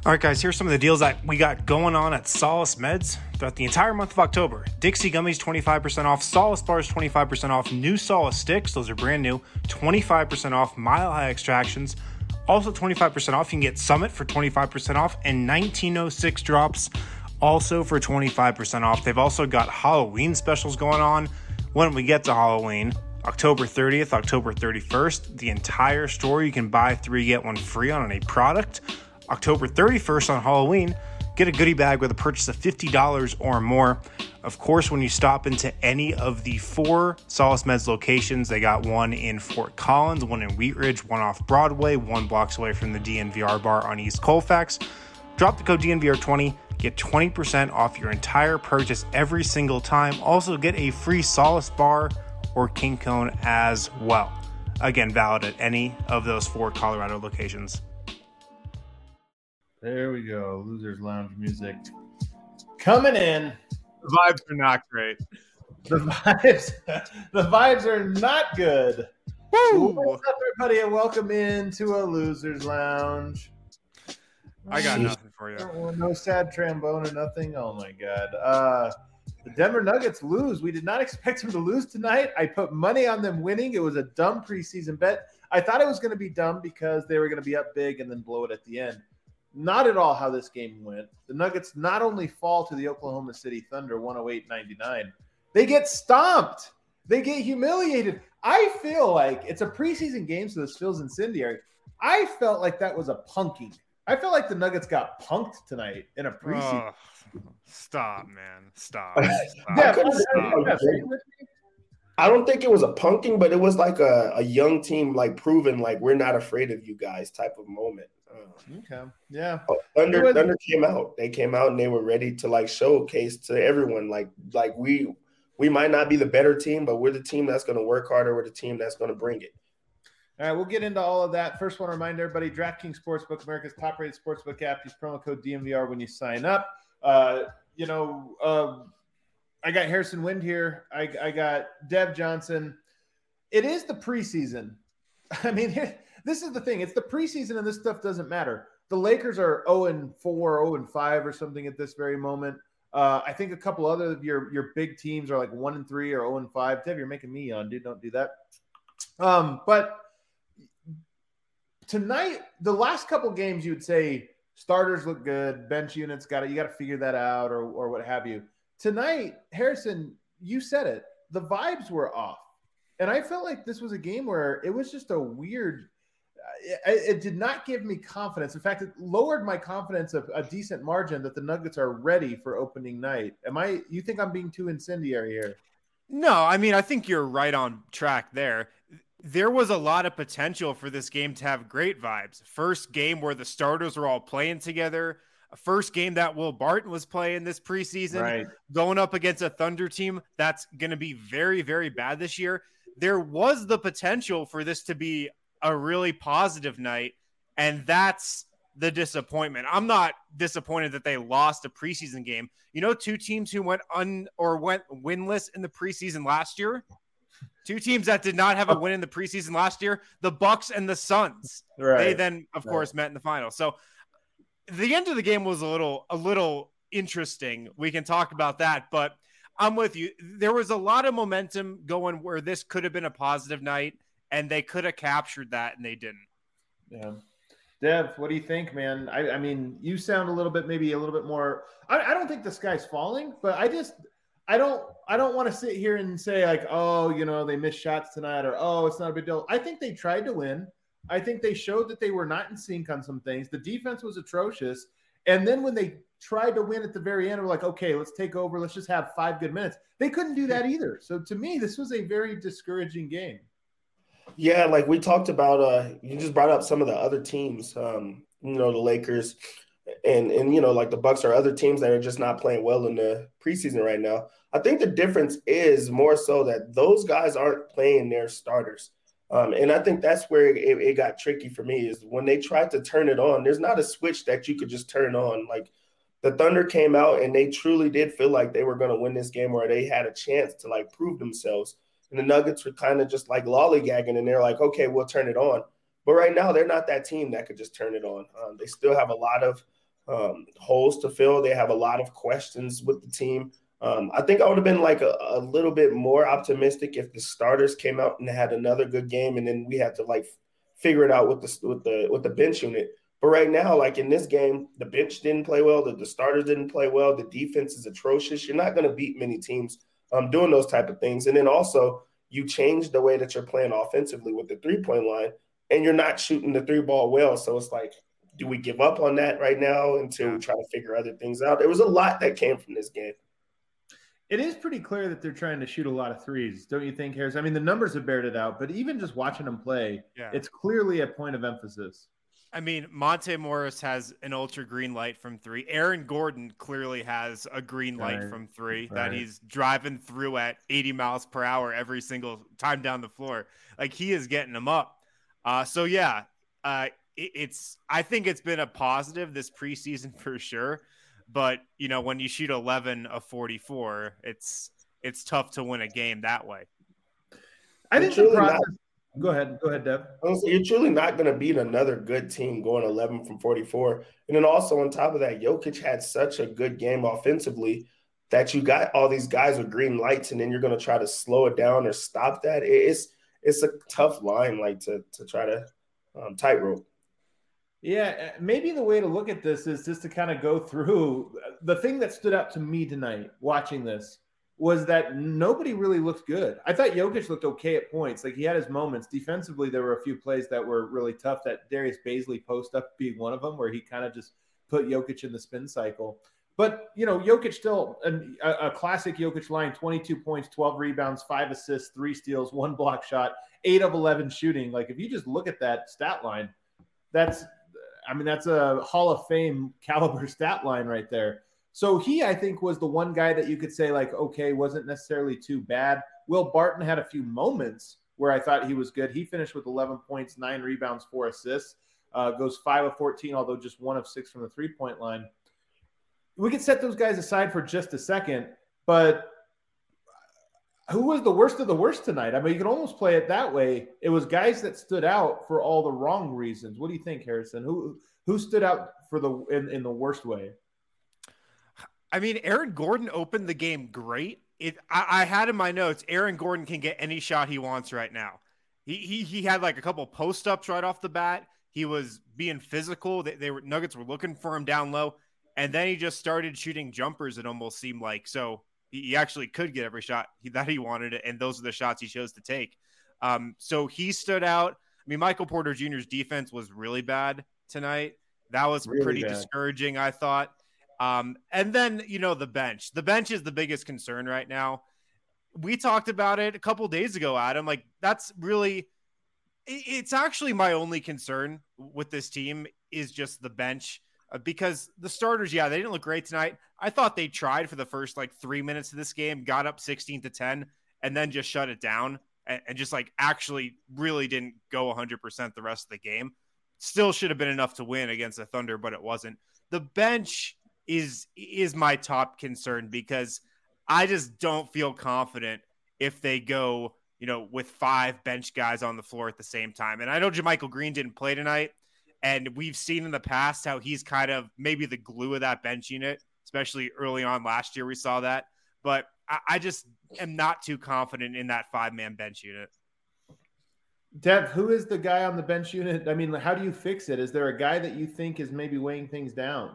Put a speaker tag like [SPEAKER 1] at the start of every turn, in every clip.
[SPEAKER 1] All right, guys, here's some of the deals that we got going on at Solace Meds throughout the entire month of October. Dixie Gummies, 25% off. Solace Bars, 25% off. New Solace Sticks, those are brand new, 25% off. Mile High Extractions, also 25% off. You can get Summit for 25% off and 1906 Drops also for 25% off. They've also got Halloween specials going on when we get to Halloween. October 30th, October 31st, the entire store, you can buy 3, get 1 free on a product. October 31st on Halloween, get a goodie bag with a purchase of $50 or more. Of course, when you stop into any of the 4 Solace Meds locations, they got one in Fort Collins, one in Wheat Ridge, one off Broadway, 1 block away from the DNVR bar on East Colfax. Drop the code DNVR20, get 20% off your entire purchase every single time. Also get a free Solace bar or King Cone as well. Again, valid at any of those 4 Colorado locations.
[SPEAKER 2] There we go. Losers Lounge music coming in.
[SPEAKER 3] The vibes are not great.
[SPEAKER 2] The vibes are not good.
[SPEAKER 3] Woo!
[SPEAKER 2] What's up, everybody, and welcome into a Losers Lounge.
[SPEAKER 3] I got nothing for you.
[SPEAKER 2] No sad trombone or nothing. Oh my god. The Denver Nuggets lose. We did not expect them to lose tonight. I put money on them winning. It was a dumb preseason bet. I thought it was going to be dumb because they were going to be up big and then blow it at the end. Not at all how this game went. The Nuggets not only fall to the Oklahoma City Thunder 108-99, they get stomped. They get humiliated. I feel like it's a preseason game, so this feels incendiary. I felt like that was a punking. I felt like the Nuggets got punked tonight in a preseason.
[SPEAKER 3] Stop, man. Stop.
[SPEAKER 2] Yeah,
[SPEAKER 4] I don't think it was a punking, but it was like a young team, like proving like we're not afraid of you guys type of moment.
[SPEAKER 2] Okay. Yeah.
[SPEAKER 4] Thunder came out. They came out and they were ready to like showcase to everyone like we might not be the better team, but we're the team that's going to work harder. We're the team that's going to bring it.
[SPEAKER 2] All right, we'll get into all of that. First, want to remind everybody, DraftKings Sportsbook, America's top-rated sportsbook app. Use promo code DNVR when you sign up. I got Harrison Wind here. I got Dev Johnson. It is the preseason. I mean, this is the thing. It's the preseason, and this stuff doesn't matter. The Lakers are 0-4, 0-5 or something at this very moment. I think a couple other of your big teams are like 1-3 or 0-5. Dev, you're making me yawn, dude. Don't do that. But tonight, the last couple games, you would say starters look good, bench units you got to figure that out or what have you. Tonight, Harrison, you said it. The vibes were off. And I felt like this was a game where it was just a weird it did not give me confidence. In fact, it lowered my confidence of a decent margin that the Nuggets are ready for opening night. You think I'm being too incendiary here?
[SPEAKER 3] No, I mean, I think you're right on track there. There was a lot of potential for this game to have great vibes. First game where the starters were all playing together. A first game that Will Barton was playing this preseason,
[SPEAKER 2] right,
[SPEAKER 3] going up against a Thunder team that's going to be very, very bad this year. There was the potential for this to be a really positive night, and that's the disappointment. I'm not disappointed that they lost a preseason game. You know, 2 teams who went winless in the preseason last year. 2 teams that did not have a win in the preseason last year, the Bucks and the Suns.
[SPEAKER 2] Right.
[SPEAKER 3] They then, of course, met in the final. So the end of the game was a little interesting. We can talk about that, but I'm with you. There was a lot of momentum going where this could have been a positive night, and they could have captured that, and they didn't.
[SPEAKER 2] Yeah. Dev, what do you think, man? I mean, you sound maybe a little bit more. I don't think the sky's falling, but I don't want to sit here and say like, oh, they missed shots tonight, or oh, it's not a big deal. I think they tried to win. I think they showed that they were not in sync on some things. The defense was atrocious. And then when they tried to win at the very end, we're like, okay, let's take over. Let's just have 5 good minutes. They couldn't do that either. So to me, this was a very discouraging game.
[SPEAKER 4] Yeah, like we talked about, you just brought up some of the other teams, the Lakers and like the Bucks are other teams that are just not playing well in the preseason right now. I think the difference is more so that those guys aren't playing their starters. And I think that's where it got tricky for me is when they tried to turn it on, there's not a switch that you could just turn on. Like the Thunder came out and they truly did feel like they were going to win this game or they had a chance to like prove themselves. And the Nuggets were kind of just like lollygagging and they're like, okay, we'll turn it on. But right now they're not that team that could just turn it on. They still have a lot of holes to fill. They have a lot of questions with the team. I think I would have been like a little bit more optimistic if the starters came out and had another good game, and then we had to like figure it out with the bench unit. But right now, like in this game, the bench didn't play well. The starters didn't play well. The defense is atrocious. You're not going to beat many teams doing those type of things. And then also you change the way that you're playing offensively with the 3-point line, and you're not shooting the 3-ball well. So it's like, do we give up on that right now until we try to figure other things out? There was a lot that came from this game.
[SPEAKER 2] It is pretty clear that they're trying to shoot a lot of threes, don't you think, Harris? I mean, the numbers have bared it out, but even just watching them play, it's clearly a point of emphasis.
[SPEAKER 3] I mean, Monte Morris has an ultra green light from 3. Aaron Gordon clearly has a green light from 3 that he's driving through at 80 miles per hour every single time down the floor. Like, he is getting them up. I think it's been a positive this preseason for sure. But, you know, when you shoot 11 of 44, it's tough to win a game that way.
[SPEAKER 2] I think the process – Go ahead, Dev.
[SPEAKER 4] You're truly not going to beat another good team going 11 from 44. And then also on top of that, Jokic had such a good game offensively that you got all these guys with green lights, and then you're going to try to slow it down or stop that. It's a tough line, like to try to tightrope.
[SPEAKER 2] Yeah, maybe the way to look at this is just to kind of go through the thing that stood out to me tonight watching this was that nobody really looked good. I thought Jokic looked okay at points. Like, he had his moments. Defensively, there were a few plays that were really tough. That Darius Baisley post-up being one of them, where he kind of just put Jokic in the spin cycle. But, you know, Jokic still a classic Jokic line, 22 points, 12 rebounds, 5 assists, 3 steals, 1 block shot, 8 of 11 shooting. Like, if you just look at that stat line, that's a Hall of Fame caliber stat line right there. So he, I think, was the one guy that you could say, like, okay, wasn't necessarily too bad. Will Barton had a few moments where I thought he was good. He finished with 11 points, 9 rebounds, 4 assists, goes 5 of 14, although just 1 of 6 from the 3-point line. We could set those guys aside for just a second, but who was the worst of the worst tonight? I mean, you can almost play it that way. It was guys that stood out for all the wrong reasons. What do you think, Harrison? Who stood out for in the worst way?
[SPEAKER 3] I mean, Aaron Gordon opened the game great. I had in my notes, Aaron Gordon can get any shot he wants right now. He had like a couple post-ups right off the bat. He was being physical. Nuggets were looking for him down low. And then he just started shooting jumpers, it almost seemed like. So he actually could get every shot that he wanted, and those are the shots he chose to take. So he stood out. I mean, Michael Porter Jr.'s defense was really bad tonight. That was really pretty discouraging, I thought. And then, you know, the bench. The bench is the biggest concern right now. We talked about it a couple days ago, Adam. Like, that's really – it's actually my only concern with this team is just the bench. Because the starters, they didn't look great tonight. I thought they tried for the first, 3 minutes of this game, got up 16-10, and then just shut it down and just, actually really didn't go 100% the rest of the game. Still should have been enough to win against the Thunder, but it wasn't. The bench is my top concern because I just don't feel confident if they go, with 5 bench guys on the floor at the same time. And I know JaMychal Green didn't play tonight, and we've seen in the past how he's kind of maybe the glue of that bench unit, especially early on last year we saw that. But I just am not too confident in that 5-man bench unit.
[SPEAKER 2] Dev, who is the guy on the bench unit? I mean, how do you fix it? Is there a guy that you think is maybe weighing things down?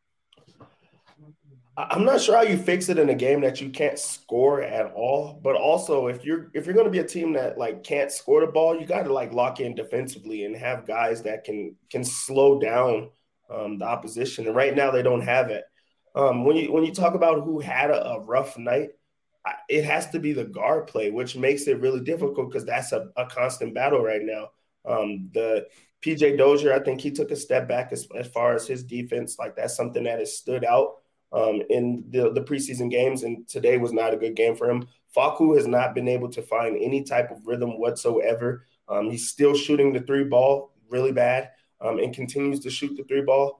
[SPEAKER 4] I'm not sure how you fix it in a game that you can't score at all. But also, if you're going to be a team that can't score the ball, you got to lock in defensively and have guys that can slow down the opposition. And right now, they don't have it. When you talk about who had a rough night, it has to be the guard play, which makes it really difficult because that's a constant battle right now. The PJ Dozier, I think he took a step back as far as his defense. That's something that has stood out in the preseason games, and today was not a good game for him. Facu has not been able to find any type of rhythm whatsoever. He's still shooting the 3-ball really bad and continues to shoot the 3-ball.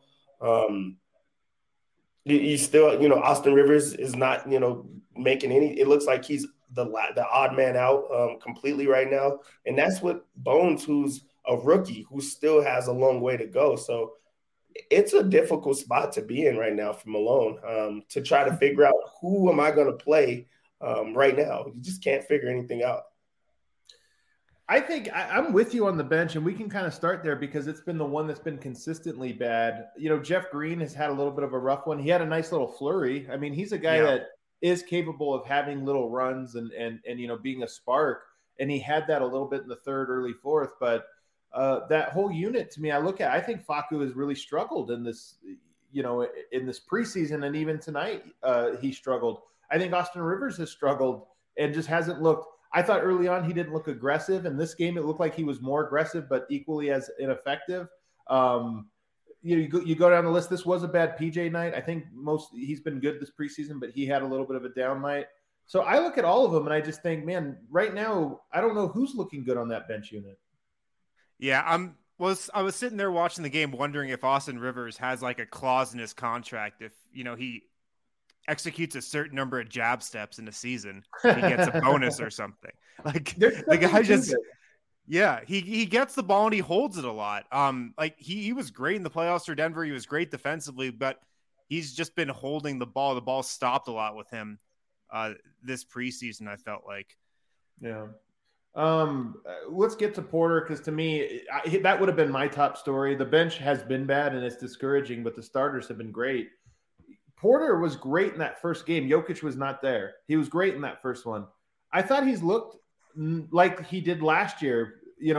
[SPEAKER 4] He's still, Austin Rivers is not, making any – it looks like he's the odd man out completely right now. And that's what Bones, who's a rookie, who still has a long way to go. So it's a difficult spot to be in right now for Malone, to try to figure out who am I going to play right now. You just can't figure anything out.
[SPEAKER 2] I think I'm with you on the bench, and we can kind of start there because it's been the one that's been consistently bad. Jeff Green has had a little bit of a rough one. He had a nice little flurry. I mean, he's a guy that is capable of having little runs and being a spark, and he had that a little bit in the third, early fourth. But that whole unit, to me, I think Facu has really struggled in this, in this preseason, and even tonight he struggled. I think Austin Rivers has struggled and just hasn't looked. I thought early on he didn't look aggressive. In this game, it looked like he was more aggressive, but equally as ineffective. You go down the list. This was a bad PJ night. I think he's been good this preseason, but he had a little bit of a down night. So I look at all of them and I just think, man, right now I don't know who's looking good on that bench unit.
[SPEAKER 3] Yeah, I was sitting there watching the game, wondering if Austin Rivers has like a clause in his contract if he executes a certain number of jab steps in a season, he gets a bonus or something. Like the guy just, he gets the ball and he holds it a lot. Like he was great in the playoffs for Denver. He was great defensively, but he's just been holding the ball. The ball stopped a lot with him this preseason, I felt like.
[SPEAKER 2] Yeah. Let's get to Porter, because to me, that would have been my top story. The bench has been bad and it's discouraging, but the starters have been great. Porter was great in that first game. Jokic was not there. He was great in that first one. I thought he's looked like he did last year,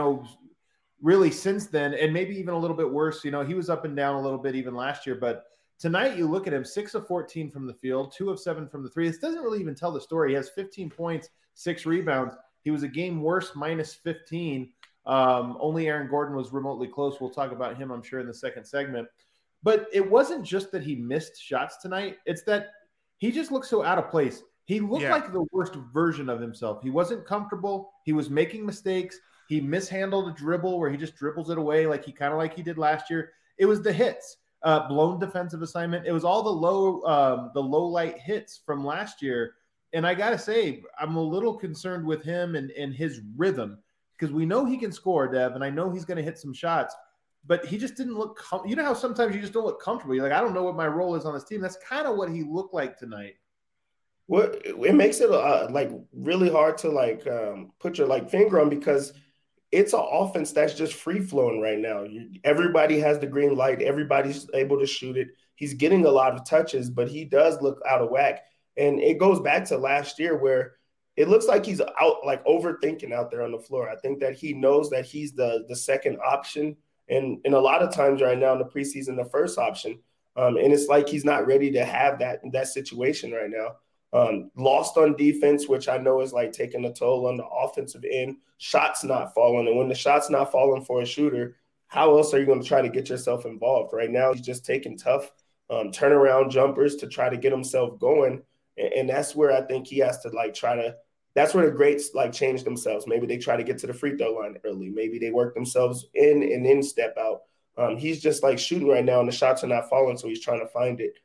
[SPEAKER 2] really since then, and maybe even a little bit worse. He was up and down a little bit even last year, but tonight you look at him, 6 of 14 from the field, 2 of 7 from the three. This doesn't really even tell the story. He has 15 points, 6 rebounds. He was a game worse, minus 15. Only Aaron Gordon was remotely close. We'll talk about him, I'm sure, in the second segment. But it wasn't just that he missed shots tonight. It's that he just looked so out of place. He looked like the worst version of himself. He wasn't comfortable. He was making mistakes. He mishandled a dribble where he just dribbles it away like he did last year. It was the hits, blown defensive assignment. It was all the low light hits from last year. And I got to say, I'm a little concerned with him and his rhythm, because we know he can score, Dev, and I know he's going to hit some shots. But he just didn't look you know how sometimes you just don't look comfortable. You're like, I don't know what my role is on this team. That's kind of what he looked like tonight.
[SPEAKER 4] Well, it makes it really hard to put your finger on, because it's an offense that's just free flowing right now. Everybody has the green light. Everybody's able to shoot it. He's getting a lot of touches, but he does look out of whack. And it goes back to last year where it looks like he's out overthinking out there on the floor. I think that he knows that he's the second option. And a lot of times right now in the preseason, the first option. And it's like he's not ready to have that situation right now. Lost on defense, which I know is taking a toll on the offensive end. Shots not falling. And when the shot's not falling for a shooter, how else are you going to try to get yourself involved? Right now, he's just taking tough turnaround jumpers to try to get himself going. And that's where I think he has to that's where the greats change themselves. Maybe they try to get to the free throw line early. Maybe they work themselves in and then step out. He's just shooting right now and the shots are not falling, so he's trying to find it.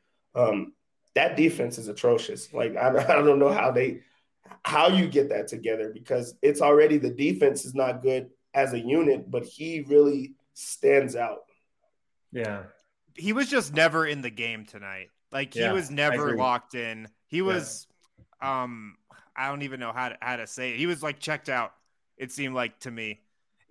[SPEAKER 4] That defense is atrocious. I don't know how you get that together, because it's already, the defense is not good as a unit, but he really stands out.
[SPEAKER 2] Yeah.
[SPEAKER 3] He was just never in the game tonight. He was never locked in. He was, I don't even know how to say it. He was checked out, it seemed like to me.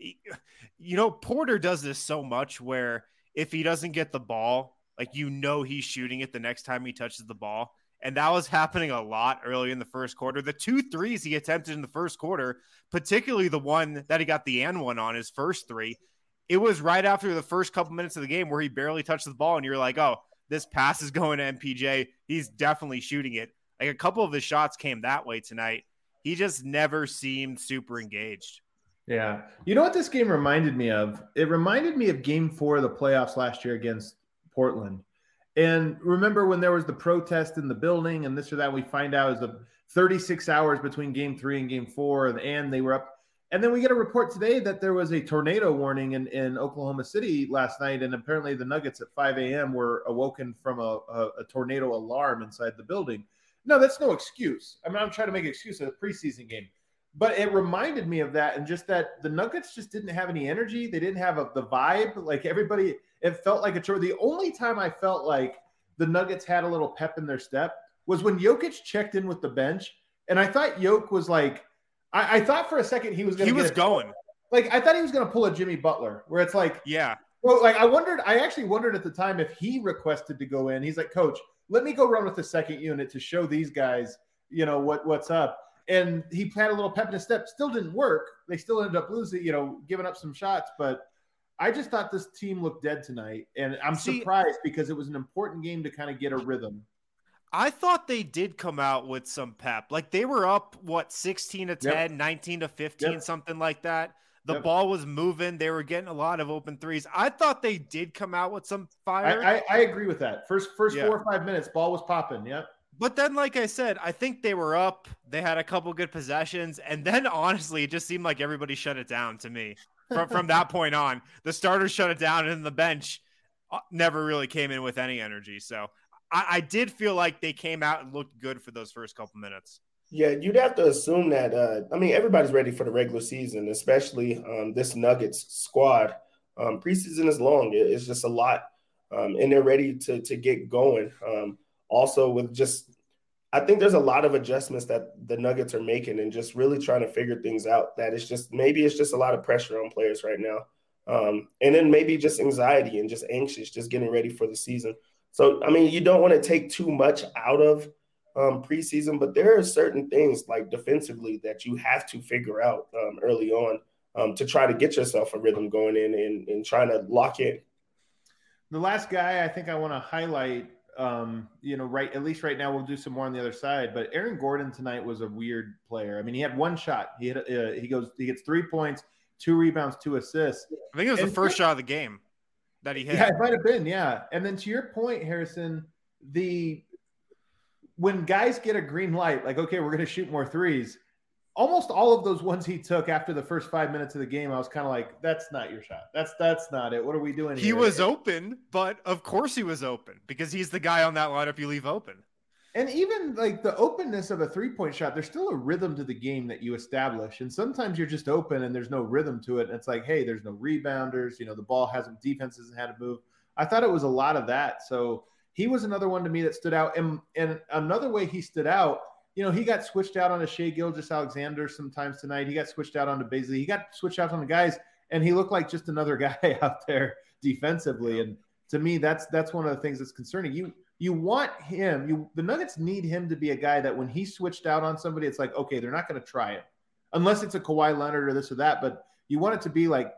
[SPEAKER 3] Porter does this so much where if he doesn't get the ball, he's shooting it the next time he touches the ball. And that was happening a lot early in the first quarter. The 2 threes he attempted in the first quarter, particularly the one that he got the and one on, his first 3, it was right after the first couple minutes of the game where he barely touched the ball. And you're like, oh, this pass is going to MPJ. He's definitely shooting it. A couple of his shots came that way tonight. He just never seemed super engaged.
[SPEAKER 2] Yeah. You know what this game reminded me of? It reminded me of game 4 of the playoffs last year against Portland. And remember when there was the protest in the building and this or that, we find out is the 36 hours between game 3 and game 4, and they were up. And then we get a report today that there was a tornado warning in Oklahoma City last night. And apparently the Nuggets at 5 a.m. were awoken from a tornado alarm inside the building. No, that's no excuse. I'm not trying to make an excuse of a preseason game. But it reminded me of that, and just that the Nuggets just didn't have any energy. They didn't have the vibe. Like everybody, it felt like a chore. The only time I felt like the Nuggets had a little pep in their step was when Jokic checked in with the bench, and I thought Jokic was like, I thought for a second he was going to.
[SPEAKER 3] He was going.
[SPEAKER 2] Like I thought he was going to pull a Jimmy Butler, where it's like,
[SPEAKER 3] yeah.
[SPEAKER 2] Well, like I actually wondered at the time if he requested to go in. He's like, Coach, let me go run with the second unit to show these guys, what's up. And he had a little pep in his step. Still didn't work. They still ended up losing, giving up some shots. But I just thought this team looked dead tonight. And I'm surprised because it was an important game to kind of get a rhythm.
[SPEAKER 3] I thought they did come out with some pep. Like they were up, 16-10,
[SPEAKER 2] Yep.
[SPEAKER 3] 19-15, something like that. The
[SPEAKER 2] Yep.
[SPEAKER 3] ball was moving. They were getting a lot of open threes. I thought they did come out with some fire.
[SPEAKER 2] I agree with that. First 4 or 5 minutes, ball was popping. Yep.
[SPEAKER 3] But then, like I said, I think they were up. They had a couple good possessions. And then, honestly, it just seemed like everybody shut it down to me. From that point on, the starters shut it down, and the bench never really came in with any energy. So I did feel like they came out and looked good for those first couple minutes.
[SPEAKER 4] Yeah, you'd have to assume that. Everybody's ready for the regular season, especially this Nuggets squad. Preseason is long; it's just a lot, and they're ready to get going. Also, with I think there's a lot of adjustments that the Nuggets are making, and just really trying to figure things out. That it's just a lot of pressure on players right now, and then maybe just anxiety and just anxious, just getting ready for the season. So, you don't want to take too much out of preseason, but there are certain things like defensively that you have to figure out early on to try to get yourself a rhythm going in and trying to lock in.
[SPEAKER 2] The last guy I think I want to highlight, at least right now, we'll do some more on the other side, but Aaron Gordon tonight was a weird player. He had one shot. He gets 3 points, 2 rebounds, 2 assists.
[SPEAKER 3] I think it was the first shot of the game that he hit.
[SPEAKER 2] Yeah, it might have been. Yeah. And then to your point, Harrison, when guys get a green light, like, okay, we're going to shoot more threes, almost all of those ones he took after the first 5 minutes of the game, I was kind of like, that's not your shot. That's not it. What are we doing here?
[SPEAKER 3] He was open, but of course he was open because he's the guy on that lineup you leave open.
[SPEAKER 2] And even like the openness of a 3-point shot, there's still a rhythm to the game that you establish. And sometimes you're just open and there's no rhythm to it. And it's like, hey, there's no rebounders. The ball defense hasn't had to move. I thought it was a lot of that. So he was another one to me that stood out. And another way he stood out, he got switched out on Shai Gilgeous-Alexander sometimes tonight. He got switched out onto Bazley. He got switched out on the guys, and he looked like just another guy out there defensively. And to me, that's one of the things that's concerning. You want him. The Nuggets need him to be a guy that when he switched out on somebody, it's like, okay, they're not going to try it unless it's a Kawhi Leonard or this or that. But you want it to be like,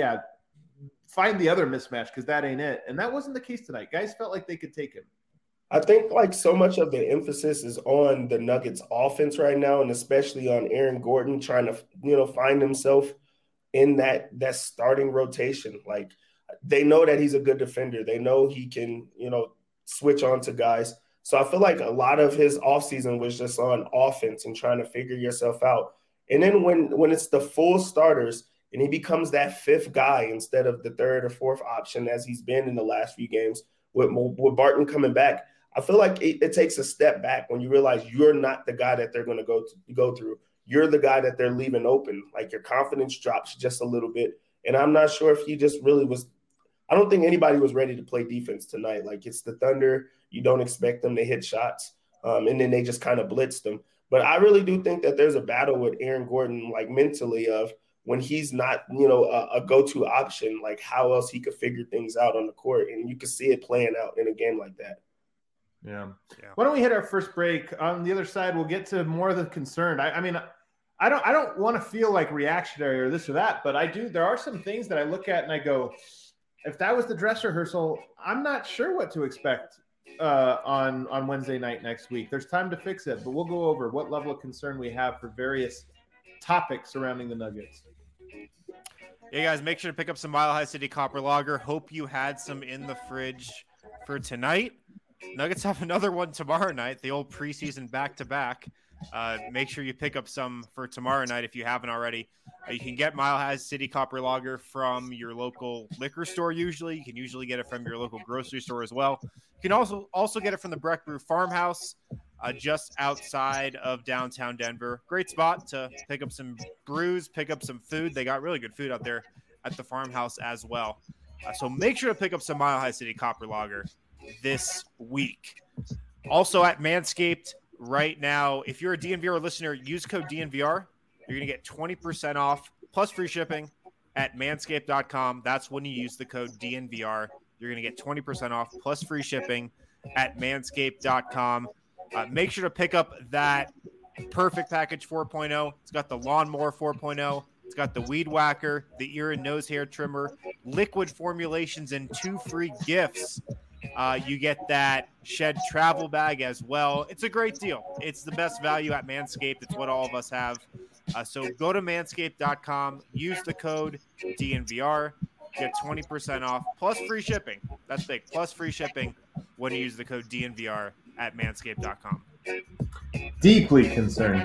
[SPEAKER 2] find the other mismatch because that ain't it. And that wasn't the case tonight. Guys felt like they could take him.
[SPEAKER 4] I think like so much of the emphasis is on the Nuggets offense right now, and especially on Aaron Gordon trying to, find himself in that starting rotation. Like they know that he's a good defender. They know he can, switch on to guys. So I feel like a lot of his offseason was just on offense and trying to figure yourself out. And then when it's the full starters and he becomes that fifth guy instead of the third or fourth option as he's been in the last few games with Barton coming back, I feel like it takes a step back when you realize you're not the guy that they're going to go through. You're the guy that they're leaving open. Like your confidence drops just a little bit. And I'm not sure if he just really was – I don't think anybody was ready to play defense tonight. Like it's the Thunder. You don't expect them to hit shots. And then they just kind of blitzed them. But I really do think that there's a battle with Aaron Gordon, like mentally of when he's not, a go-to option, like how else he could figure things out on the court. And you can see it playing out in a game like that.
[SPEAKER 2] Yeah. Why don't we hit our first break? On the other side, we'll get to more of the concern. I don't want to feel like reactionary or this or that, but I do. There are some things that I look at and I go, if that was the dress rehearsal, I'm not sure what to expect on Wednesday night next week. There's time to fix it, but we'll go over what level of concern we have for various topics surrounding the Nuggets.
[SPEAKER 3] Yeah, guys, make sure to pick up some Mile High City Copper Lager. Hope you had some in the fridge for tonight. Nuggets have another one tomorrow night, the old preseason back-to-back. Make sure you pick up some for tomorrow night if you haven't already. You can get Mile High City Copper Lager from your local liquor store usually. You can usually get it from your local grocery store as well. You can also get it from the Breck Brew Farmhouse. just outside of downtown Denver. Great spot to pick up some brews, pick up some food. They got really good food out there at the farmhouse as well. So make sure to pick up some Mile High City Copper Lager this week. Also at Manscaped right now, if you're a DNVR listener, use code DNVR. You're going to get 20% off plus free shipping at manscaped.com. That's when you use the code DNVR. You're going to get 20% off plus free shipping at manscaped.com. Make sure to pick up that Perfect Package 4.0. It's got the Lawnmower 4.0. It's got the Weed Whacker, the ear and nose hair trimmer, liquid formulations, and 2 free gifts. You get that Shed travel bag as well. It's a great deal. It's the best value at Manscaped. It's what all of us have. So go to manscaped.com, use the code DNVR, get 20% off, plus free shipping. That's big. Plus free shipping when you use the code DNVR at manscaped.com.
[SPEAKER 2] Deeply concerned.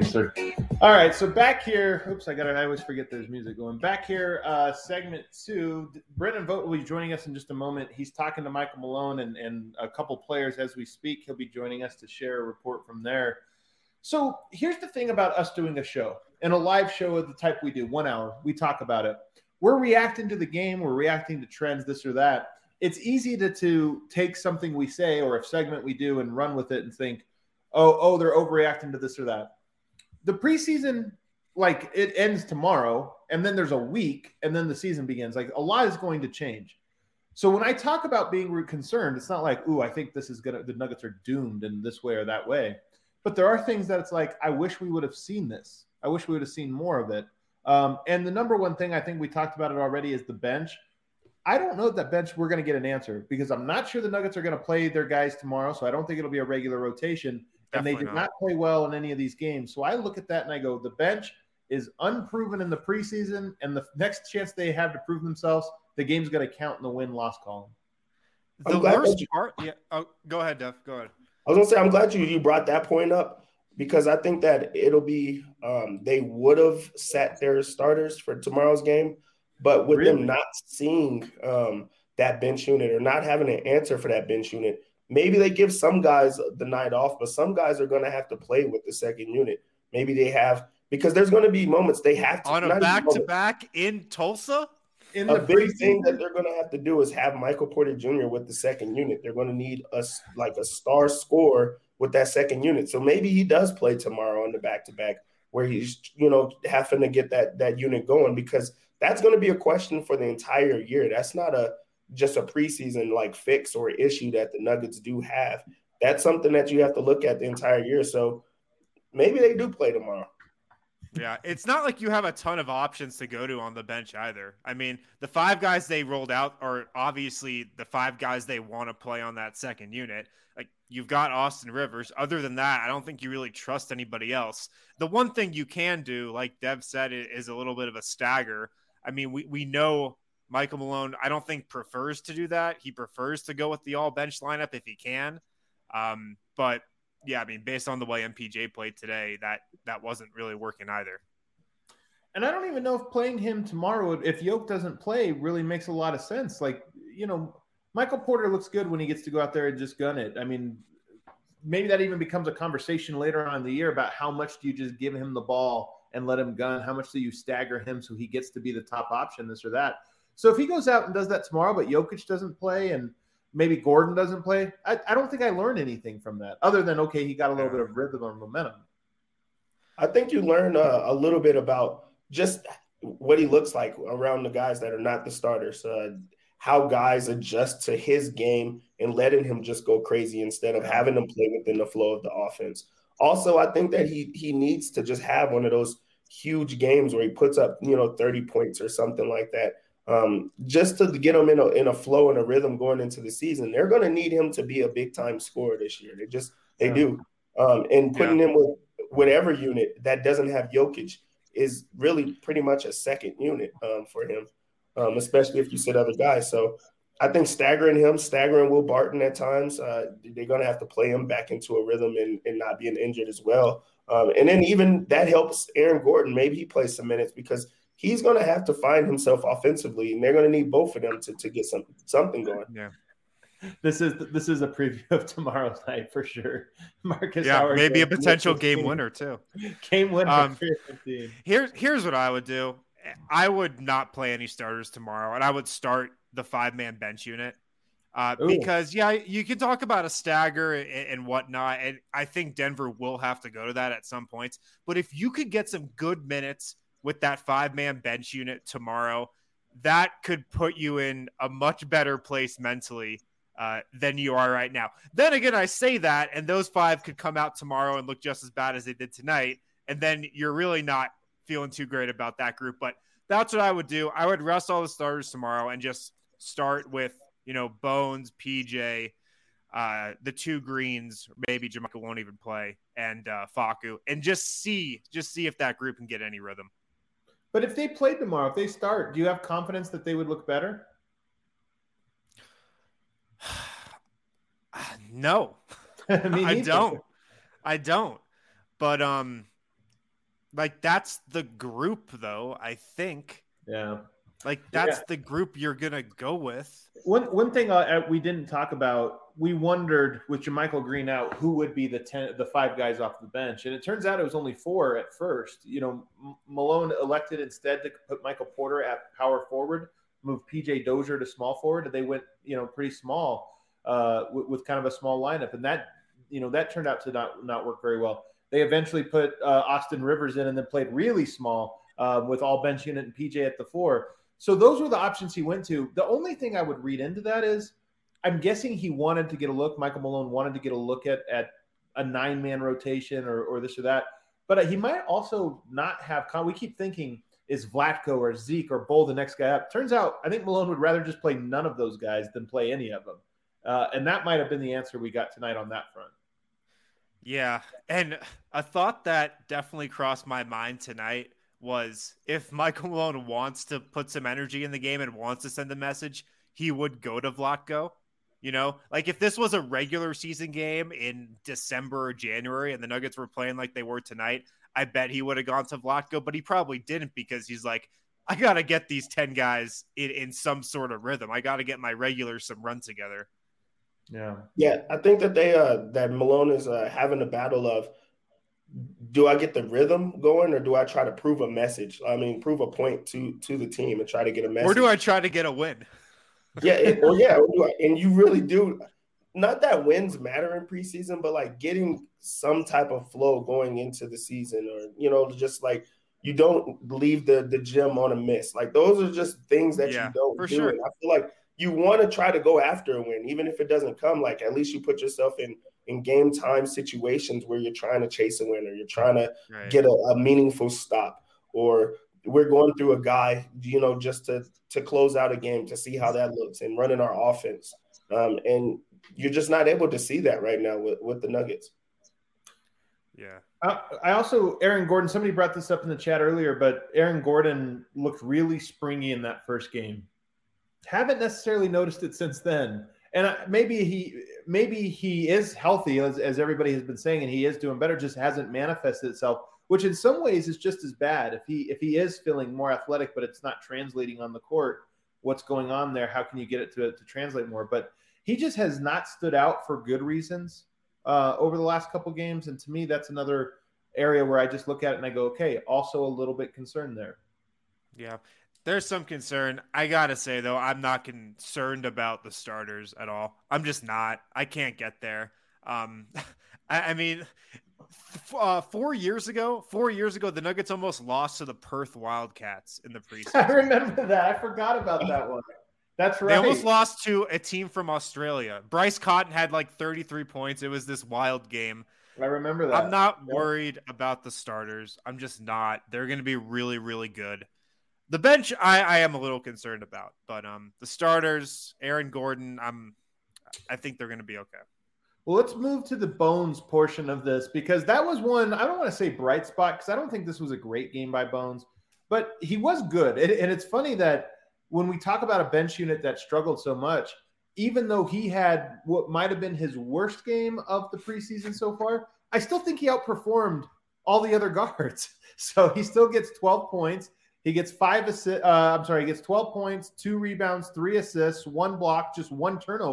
[SPEAKER 2] All right, so back here. Oops, I always forget there's music going. Back here, segment 2. Brendan Vogt will be joining us in just a moment. He's talking to Michael Malone and a couple players as we speak. He'll be joining us to share a report from there. So here's the thing about us doing a show, and a live show of the type we do, 1 hour. We talk about it. We're reacting to the game. We're reacting to trends, this or that. It's easy to take something we say or a segment we do and run with it and think, oh, they're overreacting to this or that. The preseason, like, it ends tomorrow, and then there's a week, and then the season begins. Like, a lot is going to change. So when I talk about being concerned, it's not like, I think the Nuggets are doomed in this way or that way. But there are things that it's like, I wish we would have seen this. I wish we would have seen more of it. And the number one thing, I think we talked about it already, is the bench. I don't know that bench we're going to get an answer, because I'm not sure the Nuggets are going to play their guys tomorrow, so I don't think it'll be a regular rotation. And they did not play well in any of these games. So I look at that and I go, the bench is unproven in the preseason, and the next chance they have to prove themselves, the game's going to count in the win-loss column.
[SPEAKER 3] The worst part – yeah. Oh, go ahead, Duff. Go ahead.
[SPEAKER 4] I was going to say, I'm glad you brought that point up, because I think that it'll be they would have sat their starters for tomorrow's game, but with them not seeing that bench unit or not having an answer for that bench unit, maybe they give some guys the night off, but some guys are going to have to play with the second unit. Maybe they have, because there's going to be moments they have to.
[SPEAKER 3] On a back-to-back in Tulsa?
[SPEAKER 4] A big thing that they're going to have to do is have Michael Porter Jr. with the second unit. They're going to need a star scorer with that second unit. So maybe he does play tomorrow on the back-to-back, where he's, having to get that unit going, because that's going to be a question for the entire year. That's not just a preseason fix or issue that the Nuggets do have. That's something that you have to look at the entire year. So maybe they do play tomorrow.
[SPEAKER 3] Yeah, it's not like you have a ton of options to go to on the bench either. I mean, the 5 guys they rolled out are obviously the 5 guys they want to play on that second unit. Like, you've got Austin Rivers. Other than that, I don't think you really trust anybody else. The one thing you can do, like Dev said, is a little bit of a stagger. I mean, we know Michael Malone, I don't think, prefers to do that. He prefers to go with the all-bench lineup if he can. But yeah, I mean, based on the way MPJ played today, that wasn't really working either.
[SPEAKER 2] And I don't even know if playing him tomorrow, if Yoke doesn't play, really makes a lot of sense. Michael Porter looks good when he gets to go out there and just gun it. I mean, maybe that even becomes a conversation later on in the year about how much do you just give him the ball and let him gun? How much do you stagger him so he gets to be the top option, this or that? So if he goes out and does that tomorrow, but Jokic doesn't play and maybe Gordon doesn't play, I don't think I learned anything from that other than, okay, he got a little bit of rhythm or momentum.
[SPEAKER 4] I think you learn a little bit about just what he looks like around the guys that are not the starters, how guys adjust to his game and letting him just go crazy instead of having him play within the flow of the offense. Also, I think that he needs to just have one of those huge games where he puts up, 30 points or something like that. Just to get him in a flow and a rhythm going into the season. They're going to need him to be a big time scorer this year. They do. And putting him with whatever unit that doesn't have Jokic is really pretty much a second unit for him, especially if you sit other guys. So I think staggering Will Barton at times, they're going to have to play him back into a rhythm and not being injured as well. And then even that helps Aaron Gordon. Maybe he plays some minutes because he's going to have to find himself offensively, and they're going to need both of them to get something going.
[SPEAKER 3] Yeah.
[SPEAKER 2] This is a preview of tomorrow's night for sure. Marcus
[SPEAKER 3] Yeah,
[SPEAKER 2] Howard,
[SPEAKER 3] maybe a potential game winner too.
[SPEAKER 2] Game winner. 15.
[SPEAKER 3] Here's what I would do. I would not play any starters tomorrow, and I would start the 5-man bench unit. Because you can talk about a stagger and whatnot, and I think Denver will have to go to that at some points. But if you could get some good minutes with that 5-man bench unit tomorrow, that could put you in a much better place mentally than you are right now. Then again, I say that, and those 5 could come out tomorrow and look just as bad as they did tonight, and then you're really not feeling too great about that group. But that's what I would do. I would rest all the starters tomorrow and just start with, Bones, PJ, the 2 greens, maybe JaMychal won't even play, and Facu, and just see if that group can get any rhythm.
[SPEAKER 2] But if they played tomorrow, if they start, do you have confidence that they would look better?
[SPEAKER 3] No, I don't. But that's the group, though. I think.
[SPEAKER 2] Yeah.
[SPEAKER 3] That's the group you're gonna go with.
[SPEAKER 2] One thing we didn't talk about, we wondered with JaMychal Green out, who would be the 5 guys off the bench, and it turns out it was only 4 at first. Malone elected instead to put Michael Porter at power forward, move PJ Dozier to small forward, and they went pretty small with kind of a small lineup, and that turned out to not work very well. They eventually put Austin Rivers in and then played really small with all bench unit and PJ at the 4. So those were the options he went to. The only thing I would read into that is I'm guessing he wanted to get a look. Michael Malone wanted to get a look at a 9-man rotation or this or that. But he might also not have – we keep thinking, is Vlatko or Zeke or Bull the next guy up? Turns out I think Malone would rather just play none of those guys than play any of them. And that might have been the answer we got tonight on that front.
[SPEAKER 3] Yeah, and a thought that definitely crossed my mind tonight was if Michael Malone wants to put some energy in the game and wants to send a message, he would go to Vlatko. If this was a regular season game in December or January and the Nuggets were playing like they were tonight, I bet he would have gone to Vlatko, but he probably didn't because he's like, I got to get these 10 guys in some sort of rhythm. I got to get my regulars some run together.
[SPEAKER 4] Yeah. I think that that Malone is having a battle of, do I get the rhythm going or do I try to prove a message? I mean, prove a point to the team and try to get a message.
[SPEAKER 3] Or do I try to get a win?
[SPEAKER 4] And you really do. Not that wins matter in preseason, but getting some type of flow going into the season, or just you don't leave the gym on a miss. Those are just things that you don't do.
[SPEAKER 3] Sure.
[SPEAKER 4] And I feel like you want to try to go after a win, even if it doesn't come. At least you put yourself in game time situations where you're trying to chase a win or you're trying to get a meaningful stop, or we're going through a guy, just to close out a game to see how that looks and running our offense. And you're just not able to see that right now with the Nuggets.
[SPEAKER 3] Yeah.
[SPEAKER 2] I also, Aaron Gordon, somebody brought this up in the chat earlier, but Aaron Gordon looked really springy in that first game. Haven't necessarily noticed it since then. And maybe he is healthy, as everybody has been saying, and he is doing better, just hasn't manifested itself, which in some ways is just as bad. If he is feeling more athletic, but it's not translating on the court, what's going on there? How can you get it to translate more? But he just has not stood out for good reasons over the last couple games. And to me, that's another area where I just look at it and I go, okay, also a little bit concerned there.
[SPEAKER 3] Yeah. There's some concern. I got to say, though, I'm not concerned about the starters at all. I'm just not. I can't get there. I mean, 4 years ago, the Nuggets almost lost to the Perth Wildcats in the preseason.
[SPEAKER 2] I remember that. I forgot about that one. That's right.
[SPEAKER 3] They almost lost to a team from Australia. Bryce Cotton had 33 points. It was this wild game.
[SPEAKER 2] I remember that.
[SPEAKER 3] I'm not worried about the starters. I'm just not. They're going to be really, really good. The bench, I am a little concerned about, but the starters, Aaron Gordon, I think they're going to be okay.
[SPEAKER 2] Well, let's move to the Bones portion of this, because that was one, I don't want to say bright spot, because I don't think this was a great game by Bones, but he was good. And it's funny that when we talk about a bench unit that struggled so much, even though he had what might have been his worst game of the preseason so far, I still think he outperformed all the other guards. So he still gets 12 points. He gets he gets 12 points, 2 rebounds, 3 assists, 1 block, just 1 turnover.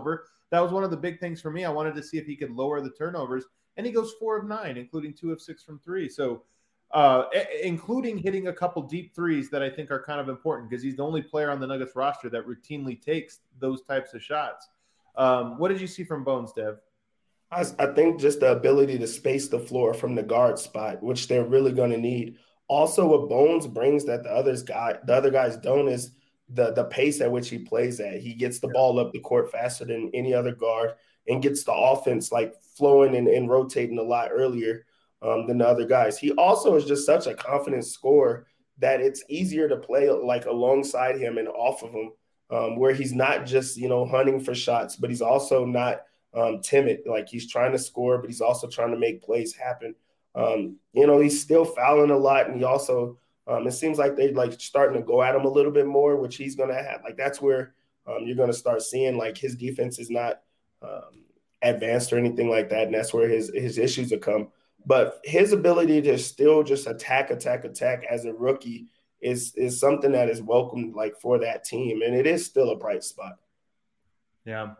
[SPEAKER 2] That was one of the big things for me. I wanted to see if he could lower the turnovers, and he goes 4 of 9, including 2 of 6 from 3. So, including hitting a couple deep threes that I think are kind of important because he's the only player on the Nuggets roster that routinely takes those types of shots. What did you see from Bones, Dev?
[SPEAKER 4] I think just the ability to space the floor from the guard spot, which they're really going to need. Also, what Bones brings that the other guys don't is the pace at which he plays at. He gets the ball up the court faster than any other guard and gets the offense like flowing and rotating a lot earlier than the other guys. He also is just such a confident scorer that it's easier to play like alongside him and off of him, where he's not just, hunting for shots, but he's also not timid. Like he's trying to score, but he's also trying to make plays happen. He's still fouling a lot, and he also it seems like they're like starting to go at him a little bit more, which he's going to have. Like that's where you're going to start seeing like his defense is not advanced or anything like that, and that's where his issues will come. But his ability to still just attack as a rookie is something that is welcomed like for that team, and it is still a bright spot.
[SPEAKER 2] Yeah.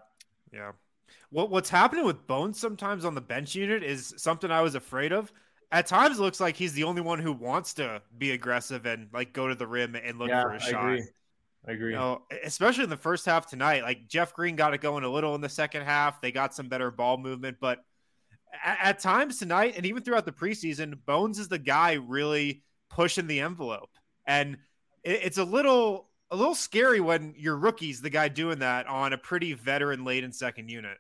[SPEAKER 3] What's happening with Bones sometimes on the bench unit is something I was afraid of. At times, it looks like he's the only one who wants to be aggressive and like go to the rim and look for a shot.
[SPEAKER 2] I agree.
[SPEAKER 3] Especially in the first half tonight, like Jeff Green got it going a little in the second half. They got some better ball movement, but at times tonight and even throughout the preseason, Bones is the guy really pushing the envelope, and it's a little scary when your rookie's the guy doing that on a pretty veteran late and second unit.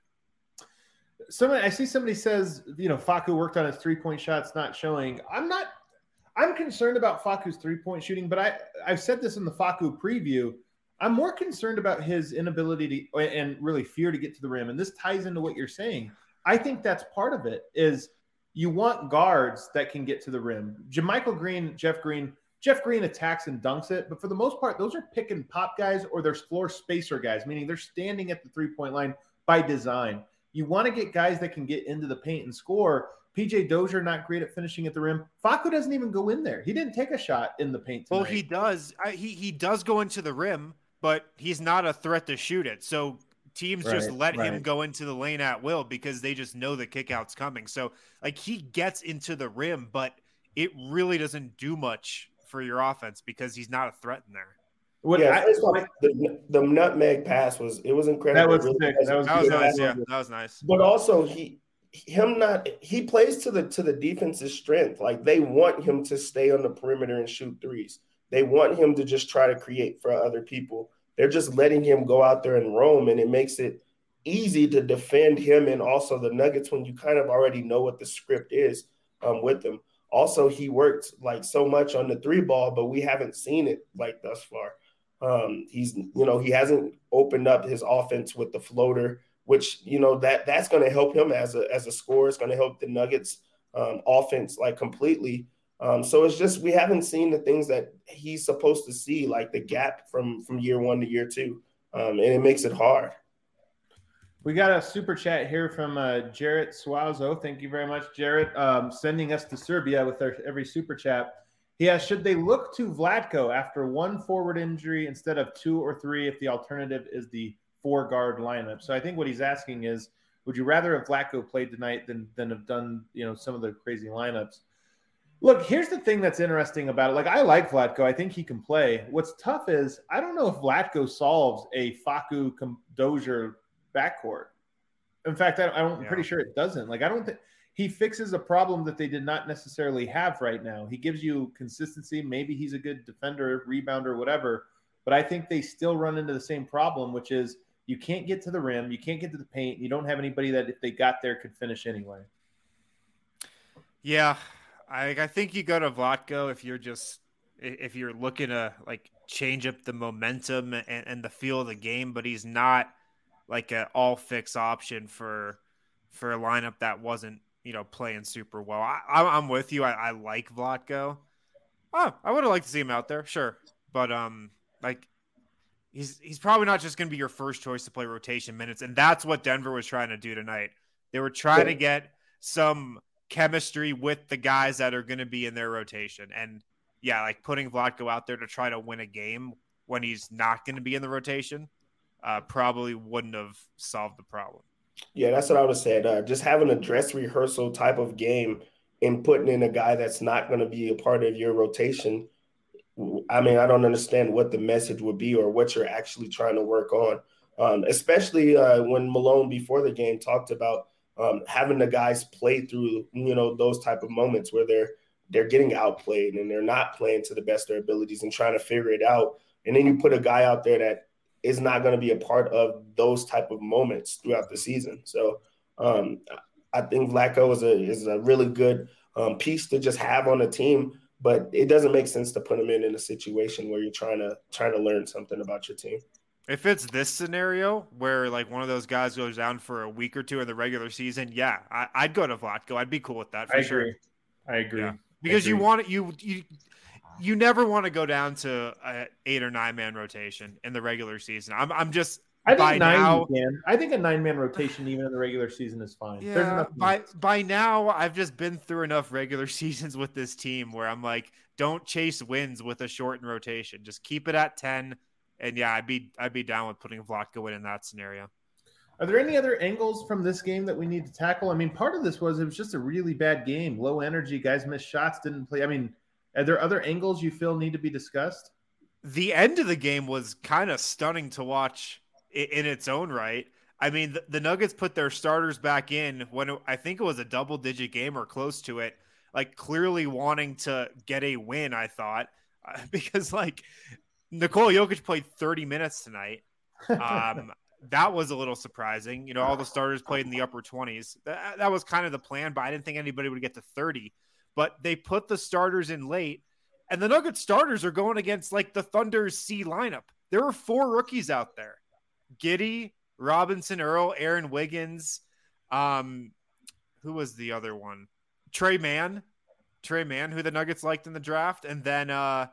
[SPEAKER 2] I see somebody says, Facu worked on his 3-point shots not showing. I'm concerned about Facu's 3-point shooting, but I've said this in the Facu preview. I'm more concerned about his inability to and really fear to get to the rim. And this ties into what you're saying. I think that's part of it is you want guards that can get to the rim. JaMychal Green, Jeff Green attacks and dunks it, but for the most part, those are pick and pop guys or they're floor spacer guys, meaning they're standing at the 3-point line by design. You want to get guys that can get into the paint and score. PJ Dozier not great at finishing at the rim. Facu doesn't even go in there. He didn't take a shot in the paint tonight.
[SPEAKER 3] Well, he does. He does go into the rim, but he's not a threat to shoot it. So teams just let him go into the lane at will because they just know the kickout's coming. So like he gets into the rim, but it really doesn't do much for your offense because he's not a threat in there.
[SPEAKER 4] The nutmeg pass was incredible.
[SPEAKER 2] That was nice.
[SPEAKER 3] Yeah, that was nice.
[SPEAKER 4] But also he plays to the defense's strength. Like they want him to stay on the perimeter and shoot threes. They want him to just try to create for other people. They're just letting him go out there and roam, and it makes it easy to defend him and also the Nuggets when you kind of already know what the script is with them. Also, he worked like so much on the 3-ball, but we haven't seen it like thus far. He hasn't opened up his offense with the floater, which, that's going to help him as a scorer. It's going to help the Nuggets offense like completely. So it's just, we haven't seen the things that he's supposed to see, like the gap from year 1 to year 2. And it makes it hard.
[SPEAKER 2] We got a super chat here from Jarrett Suazo. Thank you very much, Jarrett, sending us to Serbia with every super chat. He asked, should they look to Vlatko after 1 forward injury instead of 2 or 3 if the alternative is the 4-guard lineup? So I think what he's asking is, would you rather have Vlatko played tonight than have done some of the crazy lineups? Look, here's the thing that's interesting about it. Like, I like Vlatko. I think he can play. What's tough is I don't know if Vlatko solves a Facu Dozier backcourt. In fact, I'm pretty sure it doesn't. Like, I don't think he fixes a problem that they did not necessarily have right now. He gives you consistency. Maybe he's a good defender, rebounder, whatever. But I think they still run into the same problem, which is you can't get to the rim. You can't get to the paint. You don't have anybody that if they got there could finish anyway.
[SPEAKER 3] Yeah. I think you go to Vlatko if you're looking to like change up the momentum and the feel of the game, but he's not like an all fix option for a lineup that wasn't, playing super well. I'm with you. I like Vlatko. Oh, I would have liked to see him out there. Sure. But like he's probably not just going to be your first choice to play rotation minutes. And that's what Denver was trying to do tonight. They were trying to get some chemistry with the guys that are going to be in their rotation. And yeah, like putting Vlatko out there to try to win a game when he's not going to be in the rotation. probably wouldn't have solved the problem.
[SPEAKER 4] Yeah, that's what I would have said. Just having a dress rehearsal type of game and putting in a guy that's not going to be a part of your rotation. I mean, I don't understand what the message would be or what you're actually trying to work on, especially when Malone before the game talked about having the guys play through, those type of moments where they're getting outplayed and they're not playing to the best of their abilities and trying to figure it out. And then you put a guy out there that is not going to be a part of those type of moments throughout the season. So I think Vlatko is a really good piece to just have on a team, but it doesn't make sense to put him in a situation where you're trying to learn something about your team.
[SPEAKER 3] If it's this scenario where like one of those guys goes down for a week or two in the regular season, yeah, I'd go to Vlatko. I'd be cool with that for sure.
[SPEAKER 2] I agree.
[SPEAKER 3] Yeah. Because you want it, you never want to go down to an 8 or 9 man rotation in the regular season. I think
[SPEAKER 2] I think a 9-man rotation even in the regular season is fine.
[SPEAKER 3] Yeah, by now I've just been through enough regular seasons with this team where I'm like, don't chase wins with a shortened rotation. Just keep it at 10. And yeah, I'd be down with putting Vlatko in that scenario.
[SPEAKER 2] Are there any other angles from this game that we need to tackle? I mean, part of this it was just a really bad game. Low energy, guys missed shots, didn't play. I mean, are there other angles you feel need to be discussed?
[SPEAKER 3] The end of the game was kind of stunning to watch in its own right. I mean, the Nuggets put their starters back in when I think it was a double-digit game or close to it, like clearly wanting to get a win, I thought, because like Nikola Jokic played 30 minutes tonight. That was a little surprising. All the starters played in the upper 20s. That was kind of the plan, but I didn't think anybody would get to 30. But they put the starters in late, and the Nuggets starters are going against like the Thunder's C lineup. There were 4 rookies out there: Giddey, Robinson, Earl, Aaron Wiggins. Who was the other one? Trey Mann, who the Nuggets liked in the draft, and then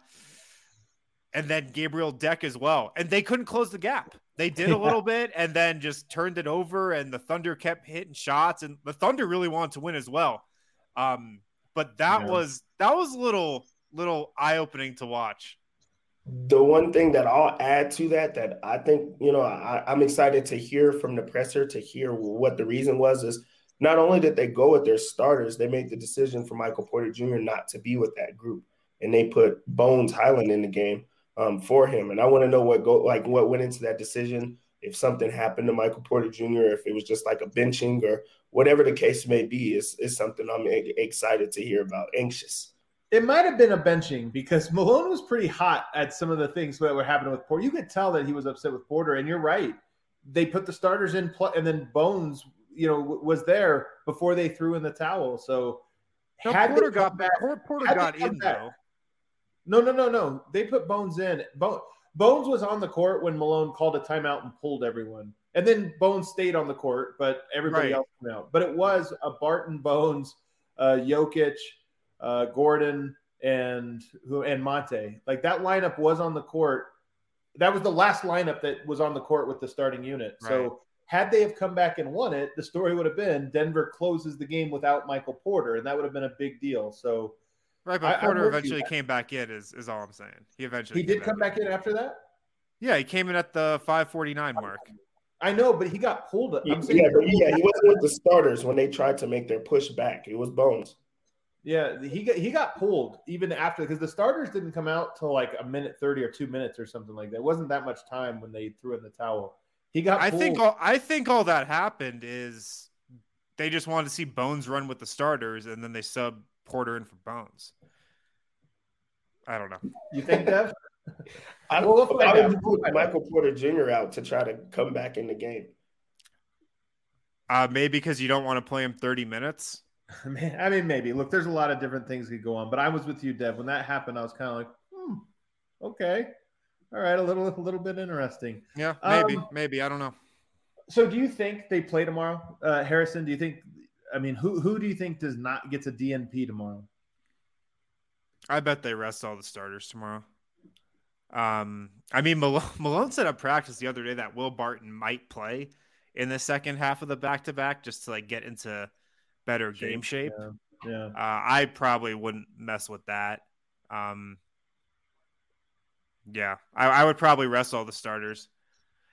[SPEAKER 3] Gabriel Deck as well. And they couldn't close the gap. They did a little bit and then just turned it over, and the Thunder kept hitting shots, and the Thunder really wanted to win as well. But that was a little eye-opening to watch.
[SPEAKER 4] The one thing that I'll add to that I think, I'm excited to hear from the presser, to hear what the reason was, is not only did they go with their starters, they made the decision for Michael Porter Jr. not to be with that group. And they put Bones Highland in the game for him. And I want to know what went into that decision, if something happened to Michael Porter Jr., if it was just like a benching or whatever the case may be, is something I'm excited to hear about, anxious.
[SPEAKER 2] It might have been a benching because Malone was pretty hot at some of the things that were happening with Porter. You could tell that he was upset with Porter, and you're right. They put the starters in, and then Bones, was there before they threw in the towel. So
[SPEAKER 3] Porter got in, though.
[SPEAKER 2] No. They put Bones in. Bones was on the court when Malone called a timeout and pulled everyone. And then Bones stayed on the court, but everybody else came out. But it was a Barton, Bones, Jokic, Gordon, and Monte. Like, that lineup was on the court. That was the last lineup that was on the court with the starting unit. Right. So had they have come back and won it, the story would have been Denver closes the game without Michael Porter, and that would have been a big deal. So
[SPEAKER 3] right, but Porter eventually came back in is all I'm saying. He
[SPEAKER 2] did come back in after that?
[SPEAKER 3] Yeah, he came in at the 5:49 mark.
[SPEAKER 2] I know, but he got pulled.
[SPEAKER 4] He wasn't with the starters when they tried to make their push back. It was Bones.
[SPEAKER 2] Yeah, he got pulled even after, because the starters didn't come out till like a minute 30 or 2 minutes or something like that. It wasn't that much time when they threw in the towel. He got pulled.
[SPEAKER 3] I think all that happened is they just wanted to see Bones run with the starters, and then they sub Porter in for Bones. I don't know.
[SPEAKER 2] You think, Dev?
[SPEAKER 4] I would put Michael Porter Jr. out to try to come back in the game.
[SPEAKER 3] Maybe because you don't want to play him 30 minutes.
[SPEAKER 2] I mean, maybe. Look, there's a lot of different things that could go on, but I was with you, Dev. When that happened, I was kind of like, okay. All right, a little bit interesting.
[SPEAKER 3] Yeah, maybe. I don't know.
[SPEAKER 2] So do you think they play tomorrow? Harrison, do you think – I mean, who do you think gets a DNP tomorrow?
[SPEAKER 3] I bet they rest all the starters tomorrow. I mean, Malone said at practice the other day that Will Barton might play in the second half of the back-to-back just to like get into better game shape.
[SPEAKER 2] Yeah.
[SPEAKER 3] I probably wouldn't mess with that. Yeah, I would probably rest all the starters.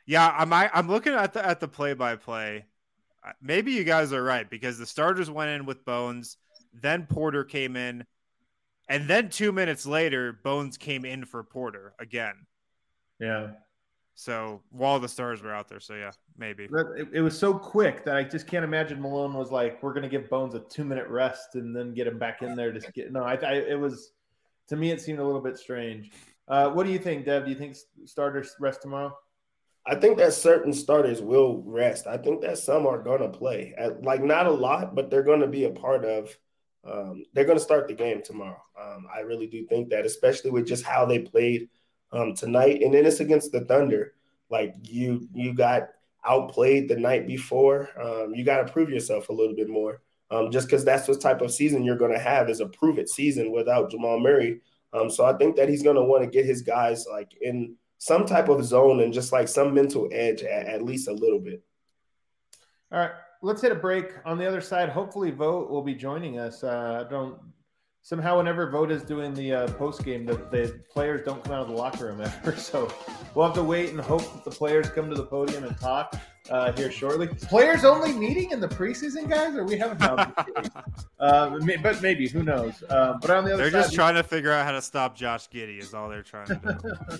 [SPEAKER 3] Yeah, I'm looking at the play-by-play. Maybe you guys are right because the starters went in with Bones, then Porter came in, and then 2 minutes later, Bones came in for Porter again.
[SPEAKER 2] Yeah.
[SPEAKER 3] So while the stars were out there, so yeah, maybe.
[SPEAKER 2] It was so quick that I just can't imagine Malone was like, "We're going to give Bones a 2-minute rest and then get him back in there to get." No, it was, to me, it seemed a little bit strange. What do you think, Dev? Do you think starters rest tomorrow?
[SPEAKER 4] I think that certain starters will rest. I think that some are going to play, like not a lot, but they're going to be a part of. They're going to start the game tomorrow. I really do think that, especially with just how they played tonight, and then it's against the Thunder. Like you got outplayed the night before. You got to prove yourself a little bit more, just because that's what type of season you're going to have is a prove-it season without Jamal Murray. So I think that he's going to want to get his guys like in some type of zone and just like some mental edge at least a little bit.
[SPEAKER 2] All right, let's hit a break. On the other side, hopefully Vogt will be joining us. Somehow whenever Vogt is doing the post game, the players don't come out of the locker room ever. So we'll have to wait and hope that the players come to the podium and talk here shortly. Players only meeting in the preseason, guys, or we haven't but maybe, who knows? But on the other
[SPEAKER 3] they're
[SPEAKER 2] side,
[SPEAKER 3] just trying to figure out how to stop Josh Giddey is all they're trying to do.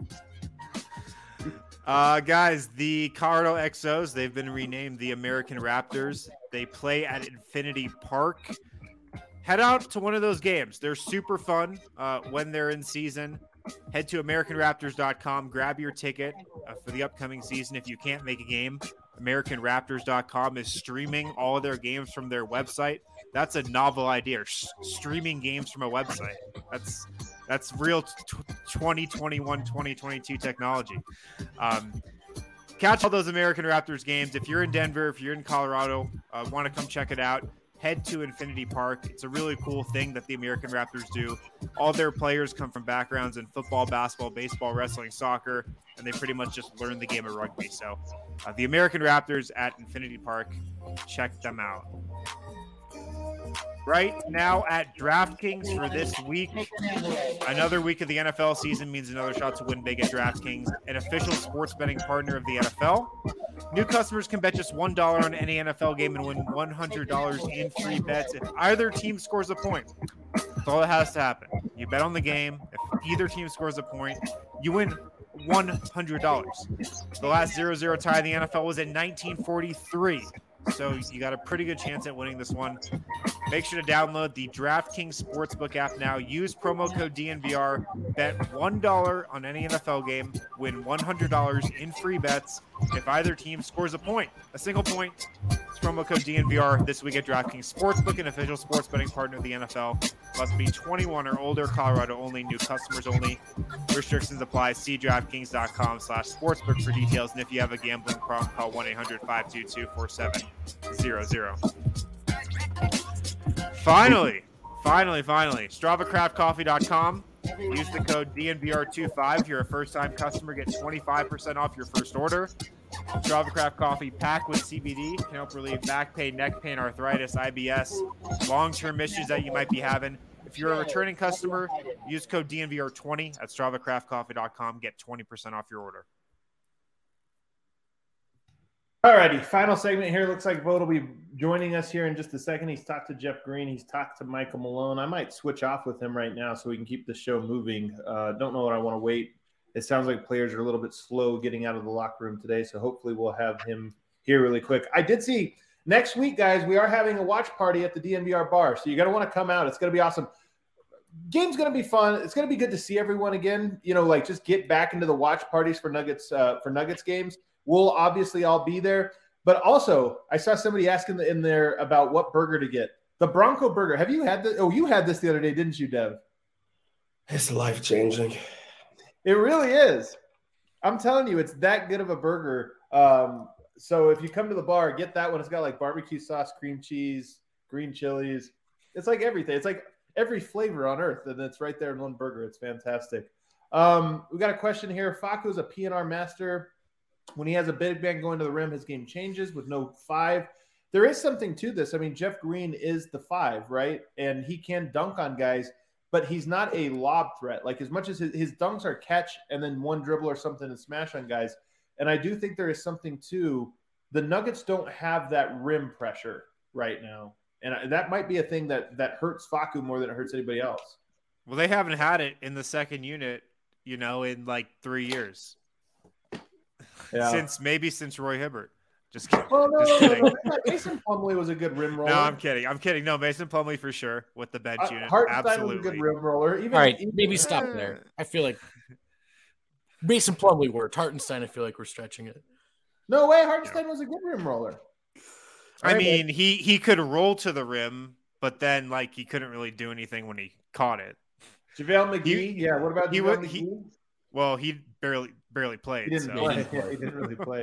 [SPEAKER 3] Guys, the Colorado XOs, they've been renamed the American Raptors. They play at Infinity Park. Head out to one of those games. They're super fun when they're in season. Head to AmericanRaptors.com. Grab your ticket for the upcoming season. If you can't make a game, AmericanRaptors.com is streaming all of their games from their website. That's a novel idea. Streaming games from a website. That's real 2021, 2022 technology. Catch all those American Raptors games. If you're in Denver, if you're in Colorado, want to come check it out, head to Infinity Park. It's a really cool thing that the American Raptors do. All their players come from backgrounds in football, basketball, baseball, wrestling, soccer, and they pretty much just learn the game of rugby. So the American Raptors at Infinity Park, check them out. Right now at DraftKings for this week, another week of the NFL season means another shot to win big at DraftKings, an official sports betting partner of the NFL. New customers can bet just $1 on any NFL game and win $100 in free bets if either team scores a point. That's all that has to happen. You bet on the game. If either team scores a point, you win $100. The last 0-0 tie in the NFL was in 1943. So you got a pretty good chance at winning this one. Make sure to download the DraftKings Sportsbook app now. Use promo code DNVR. Bet $1 on any NFL game. Win $100 in free bets if either team scores a point. A single point. It's promo code DNVR this week at DraftKings Sportsbook, an official sports betting partner of the NFL. Must be 21 or older. Colorado only. New customers only. Restrictions apply. See DraftKings.com/sportsbook for details. And if you have a gambling problem, call 1-800-522-4700. Finally, StravaCraftCoffee.com. Use the code DNVR25. If you're a first-time customer, get 25% off your first order. Strava Craft Coffee packed with CBD can help relieve back pain, neck pain, arthritis, IBS, long-term issues that you might be having. If you're a returning customer, use code DNVR20 at StravaCraftCoffee.com. Get 20% off your order.
[SPEAKER 2] Alrighty, final segment here. Looks like Vogt will be joining us here in just a second. He's talked to Jeff Green. He's talked to Michael Malone. I might switch off with him right now so we can keep the show moving. Don't know what I want to wait. It sounds like players are a little bit slow getting out of the locker room today, so hopefully we'll have him here really quick. I did see next week, guys, we are having a watch party at the DNVR bar, so you're going to want to come out. It's going to be awesome. Game's going to be fun. It's going to be good to see everyone again. You know, like just get back into the watch parties for Nuggets games. We'll obviously all be there. But also, I saw somebody asking in there about what burger to get. The Bronco Burger. Have you had this? Oh, you had this the other day, didn't you, Dev?
[SPEAKER 4] It's life-changing.
[SPEAKER 2] It really is. I'm telling you, it's that good of a burger. So if you come to the bar, get that one. It's got like barbecue sauce, cream cheese, green chilies. It's like everything. It's like every flavor on earth, and it's right there in one burger. It's fantastic. We got a question here. Facu's a PNR master. When he has a big bang going to the rim, his game changes with no 5. There is something to this. I mean, Jeff Green is the 5, right? And he can dunk on guys, but he's not a lob threat. Like as much as his dunks are catch and then one dribble or something and smash on guys. And I do think there is something to the Nuggets don't have that rim pressure right now. And that might be a thing that hurts Facu more than it hurts anybody else.
[SPEAKER 3] Well, they haven't had it in the second unit, in like 3 years.
[SPEAKER 2] Yeah.
[SPEAKER 3] Since Roy Hibbert. Just kidding.
[SPEAKER 2] Well, no,
[SPEAKER 3] Just kidding.
[SPEAKER 2] Mason Plumlee was a good rim roller.
[SPEAKER 3] No, I'm kidding. No, Mason Plumlee for sure with the bench unit.
[SPEAKER 2] Hartenstein
[SPEAKER 3] Absolutely.
[SPEAKER 2] was a good rim roller.
[SPEAKER 5] All right, maybe stop there. I feel like Mason Plumlee worked. Hartenstein, I feel like we're stretching it.
[SPEAKER 2] No way, Hartenstein was a good rim roller.
[SPEAKER 3] I mean, he could roll to the rim, but then like he couldn't really do anything when he caught it.
[SPEAKER 2] JaVale McGee, what about JaVale McGee?
[SPEAKER 3] Well, he barely played.
[SPEAKER 2] He didn't play. He didn't really play.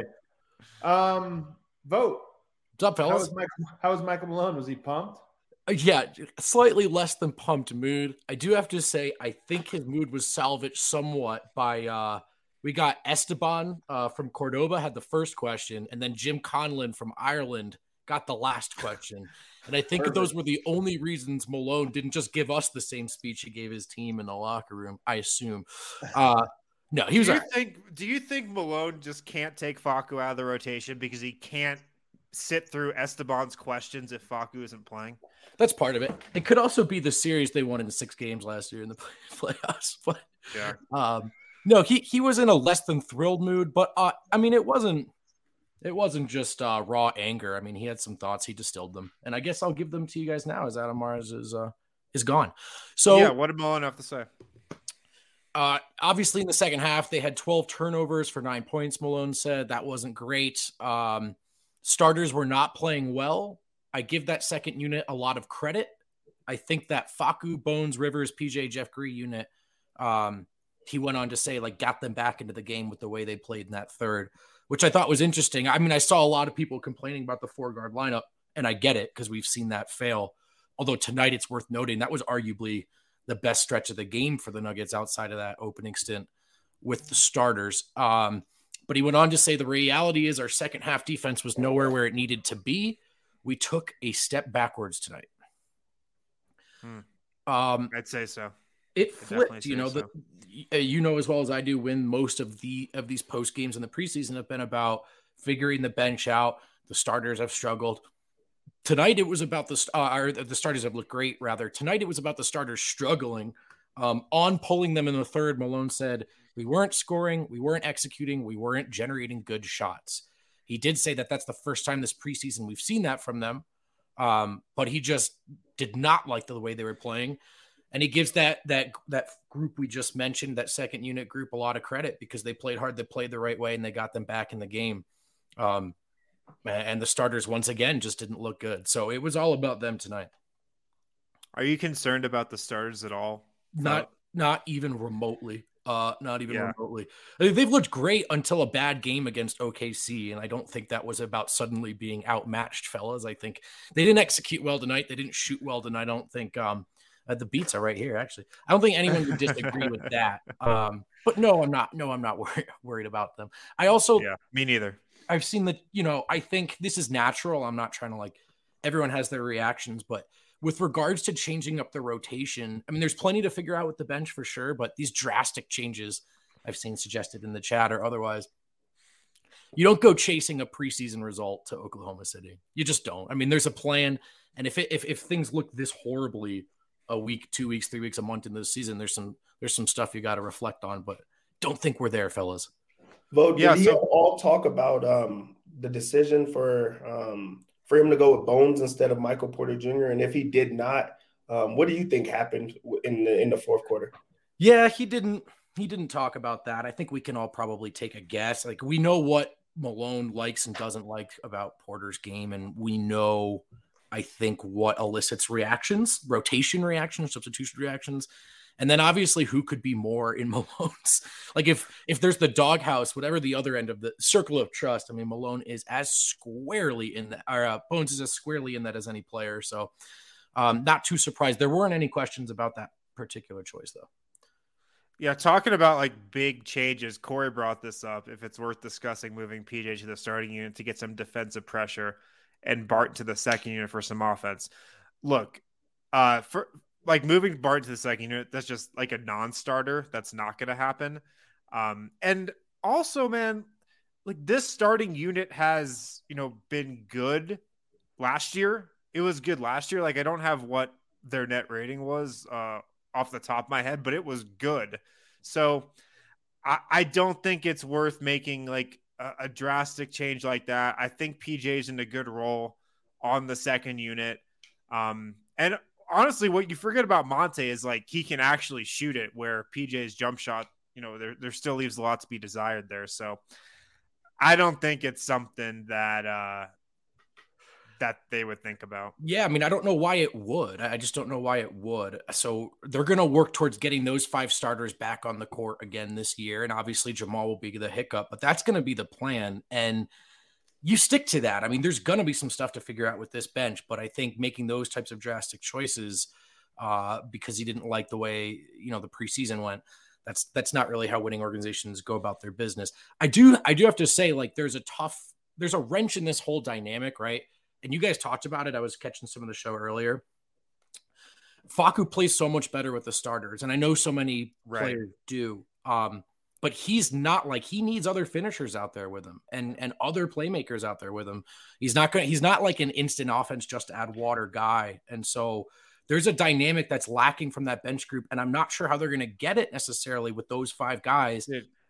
[SPEAKER 2] Vote.
[SPEAKER 5] What's up, fellas?
[SPEAKER 2] How was Michael Malone? Was he pumped?
[SPEAKER 5] Yeah, slightly less than pumped mood. I do have to say, I think his mood was salvaged somewhat by we got Esteban from Cordoba had the first question, and then Jim Conlon from Ireland got the last question. And I think those were the only reasons Malone didn't just give us the same speech he gave his team in the locker room, I assume. No, he was.
[SPEAKER 3] Do you think Malone just can't take Facu out of the rotation because he can't sit through Esteban's questions if Facu isn't playing?
[SPEAKER 5] That's part of it. It could also be the series they won in 6 games last year in the playoffs. But
[SPEAKER 3] yeah,
[SPEAKER 5] no, he was in a less than thrilled mood. But I mean, it wasn't just raw anger. I mean, he had some thoughts. He distilled them, and I guess I'll give them to you guys now as Adam Mars is gone. So
[SPEAKER 3] yeah, what did Malone have to say?
[SPEAKER 5] Obviously, in the second half, they had 12 turnovers for 9 points. Malone said that wasn't great. Starters were not playing well. I give that second unit a lot of credit. I think that Facu, Bones, Rivers, PJ, Jeff Gree unit, he went on to say, like, got them back into the game with the way they played in that third, which I thought was interesting. I mean, I saw a lot of people complaining about the 4-guard lineup, and I get it because we've seen that fail. Although tonight it's worth noting that was arguably the best stretch of the game for the Nuggets outside of that opening stint with the starters. But he went on to say the reality is our second half defense was nowhere where it needed to be. We took a step backwards tonight.
[SPEAKER 3] I'd say so.
[SPEAKER 5] It flipped, as well as I do, when most of these post games in the preseason have been about figuring the bench out. The starters have struggled. Tonight it was about the starters have looked great. Rather, tonight it was about the starters struggling. On pulling them in the third, Malone said we weren't scoring, we weren't executing, we weren't generating good shots. He did say that that's the first time this preseason we've seen that from them, but he just did not like the way they were playing. And he gives that group we just mentioned, that second unit group, a lot of credit because they played hard, they played the right way, and they got them back in the game. And the starters, once again, just didn't look good. So it was all about them tonight.
[SPEAKER 3] Are you concerned about the starters at all?
[SPEAKER 5] Not even remotely. Remotely. I mean, they've looked great until a bad game against OKC, and I don't think that was about suddenly being outmatched, fellas. I think they didn't execute well tonight. They didn't shoot well tonight. I don't think the beats are right here, actually. I don't think anyone would disagree with that. But no, I'm not. No, I'm not worried about them.
[SPEAKER 3] Me neither.
[SPEAKER 5] I've seen that, I think this is natural. I'm not trying to everyone has their reactions, but with regards to changing up the rotation, I mean, there's plenty to figure out with the bench for sure, but these drastic changes I've seen suggested in the chat or otherwise, you don't go chasing a preseason result to Oklahoma City. You just don't. I mean, there's a plan. And if things look this horribly a week, 2 weeks, 3 weeks, a month into the season, there's some stuff you got to reflect on, but don't think we're there, fellas.
[SPEAKER 4] Vote. Did he all talk about the decision for him to go with Bones instead of Michael Porter Jr.? And if he did not, what do you think happened in the fourth quarter?
[SPEAKER 5] Yeah, he didn't talk about that. I think we can all probably take a guess. Like, we know what Malone likes and doesn't like about Porter's game, and we know, I think, what elicits reactions, rotation reactions, substitution reactions. And then obviously who could be more in Malone's, like if there's the doghouse, whatever the other end of the circle of trust, I mean, Malone is as squarely in that, or Bones is as squarely in that as any player. So not too surprised. There weren't any questions about that particular choice though.
[SPEAKER 3] Yeah. Talking about big changes, Corey brought this up. If it's worth discussing moving PJ to the starting unit to get some defensive pressure and Bart to the second unit for some offense. Look, moving Bart to the second unit, that's just a non-starter. That's not going to happen. And also, man, like this starting unit has, been good last year. It was good last year. Like I don't have what their net rating was off the top of my head, but it was good. So I don't think it's worth making like a drastic change like that. I think PJ's in a good role on the second unit. And honestly, what you forget about Monte is like he can actually shoot it, where PJ's jump shot, there still leaves a lot to be desired there. So I don't think it's something that they would think about.
[SPEAKER 5] Yeah, I mean, I don't know why it would. I just don't know why it would. So they're going to work towards getting those 5 starters back on the court again this year. And obviously Jamal will be the hiccup, but that's going to be the plan. And you stick to that. I mean, there's going to be some stuff to figure out with this bench, but I think making those types of drastic choices because he didn't like the way, the preseason went, that's not really how winning organizations go about their business. I do have to say, like, there's a wrench in this whole dynamic, right? And you guys talked about it. I was catching some of the show earlier. Facu plays so much better with the starters, and I know so many players do. But he's not like, he needs other finishers out there with him and other playmakers out there with him. He's not like an instant offense, just add water guy. And so there's a dynamic that's lacking from that bench group. And I'm not sure how they're going to get it necessarily with those 5 guys.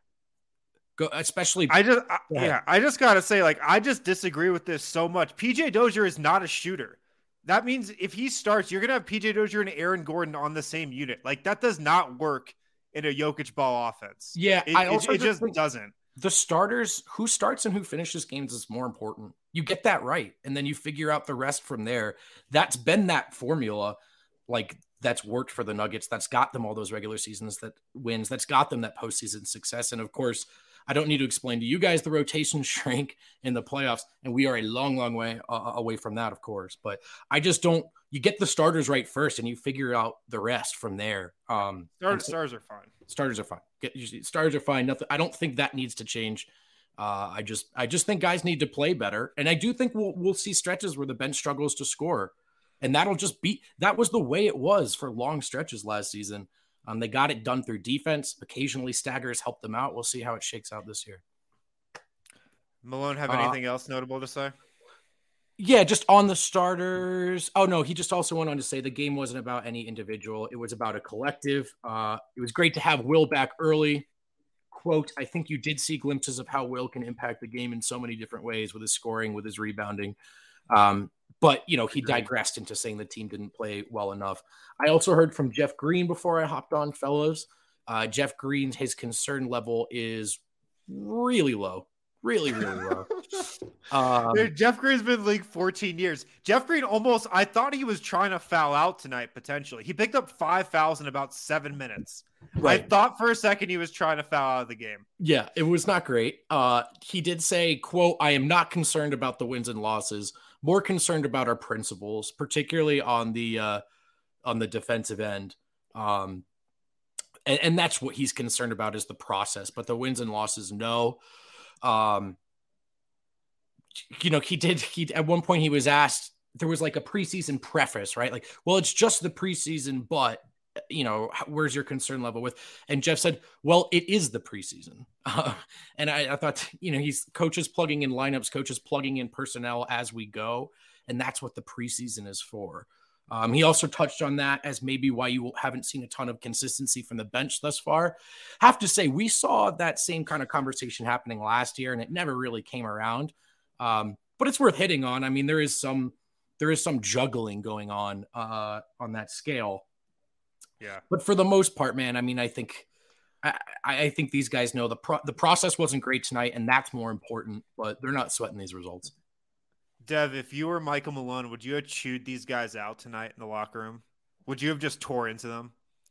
[SPEAKER 5] Especially.
[SPEAKER 3] I just got to say, like, I just disagree with this so much. PJ Dozier is not a shooter. That means if he starts, you're going to have PJ Dozier and Aaron Gordon on the same unit. Like, that does not work in a Jokic ball offense.
[SPEAKER 5] Yeah,
[SPEAKER 3] it just doesn't.
[SPEAKER 5] The starters, who starts and who finishes games is more important. You get that right, and then you figure out the rest from there. That's been that formula, like, that's worked for the Nuggets. That's got them all those regular seasons that wins. That's got them that postseason success. And of course, I don't need to explain to you guys the rotation shrink in the playoffs, and we are a long, long way away from that, of course. But I just don't. You get the starters right first, and you figure out the rest from there.
[SPEAKER 3] Stars are fine.
[SPEAKER 5] Starters are fine. Starters are fine. Nothing. I don't think that needs to change. I just think guys need to play better, and I do think we'll see stretches where the bench struggles to score, and that'll just be. That was the way it was for long stretches last season. They got it done through defense. Occasionally, staggers helped them out. We'll see how it shakes out this year.
[SPEAKER 3] Malone, have anything else notable to say?
[SPEAKER 5] Yeah, just on the starters. Oh, no, he just also went on to say the game wasn't about any individual. It was about a collective. It was great to have Will back early. Quote, I think you did see glimpses of how Will can impact the game in so many different ways with his scoring, with his rebounding. But, he digressed into saying the team didn't play well enough. I also heard from Jeff Green before I hopped on, fellows. Jeff Green, his concern level is really low. Really, really low.
[SPEAKER 3] Dude, Jeff Green's been in the league 14 years. Jeff Green I thought he was trying to foul out tonight, potentially. He picked up 5 fouls in about 7 minutes. Right. I thought for a second he was trying to foul out of the game.
[SPEAKER 5] Yeah, it was not great. He did say, quote, I am not concerned about the wins and losses, more concerned about our principles, particularly on the defensive end. And that's what he's concerned about, is the process, but the wins and losses, no. He at one point he was asked, there was like a preseason preface, right? Like, well, it's just the preseason, but where's your concern level with? And Jeff said, well, it is the preseason. And I thought, he's coaches plugging in lineups, coaches plugging in personnel as we go. And that's what the preseason is for. He also touched on that as maybe why you haven't seen a ton of consistency from the bench thus far. Have to say, we saw that same kind of conversation happening last year, and it never really came around. But it's worth hitting on. I mean, there is some juggling going on that scale.
[SPEAKER 3] Yeah.
[SPEAKER 5] But for the most part, man, I mean, I think these guys know the process wasn't great tonight, and that's more important. But they're not sweating these results.
[SPEAKER 3] Dev, if you were Michael Malone, would you have chewed these guys out tonight in the locker room? Would you have just tore into them?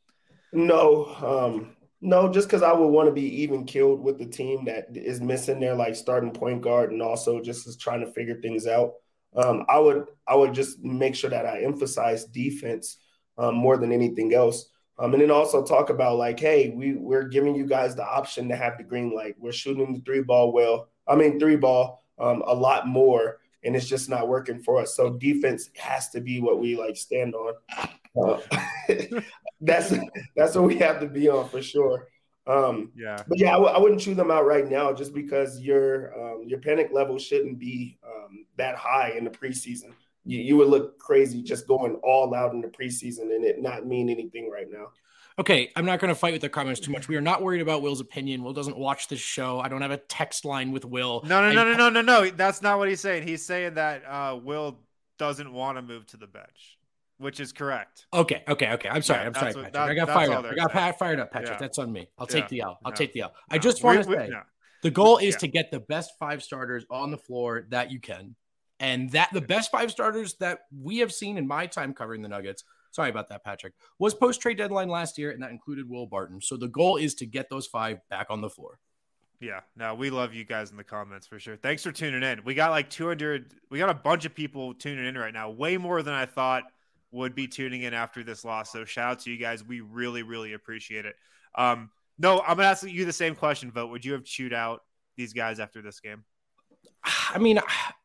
[SPEAKER 4] No, just because I would want to be even killed with the team that is missing their like starting point guard and also just is trying to figure things out. I would just make sure that I emphasize defense more than anything else. And then also talk about like, hey, we're giving you guys the option to have the green light. We're shooting the three ball a lot more. And it's just not working for us. So defense has to be what we like stand on. That's what we have to be on for sure. But yeah, I wouldn't chew them out right now just because your panic level shouldn't be that high in the preseason. You would look crazy just going all out in the preseason and it not mean anything right now.
[SPEAKER 5] Okay, I'm not going to fight with the comments too much. We are not worried about Will's opinion. Will doesn't watch this show. I don't have a text line with Will.
[SPEAKER 3] No. That's not what he's saying. He's saying that Will doesn't want to move to the bench, which is correct.
[SPEAKER 5] Okay. I'm sorry, Patrick. I got fired up. Fired up, Patrick. Yeah. That's on me. I'll take the L. Take the L. I just want to say the goal is to get the best 5 starters on the floor that you can. And that the best 5 starters that we have seen in my time covering the Nuggets, sorry about that, Patrick, was post-trade deadline last year, and that included Will Barton. So the goal is to get those 5 back on the floor.
[SPEAKER 3] Yeah, no, we love you guys in the comments for sure. Thanks for tuning in. We got like 200. We got a bunch of people tuning in right now, way more than I thought would be tuning in after this loss. So shout out to you guys. We really, really appreciate it. No, I'm going to ask you the same question, Vogt. Would you have chewed out these guys after this game?
[SPEAKER 5] I mean,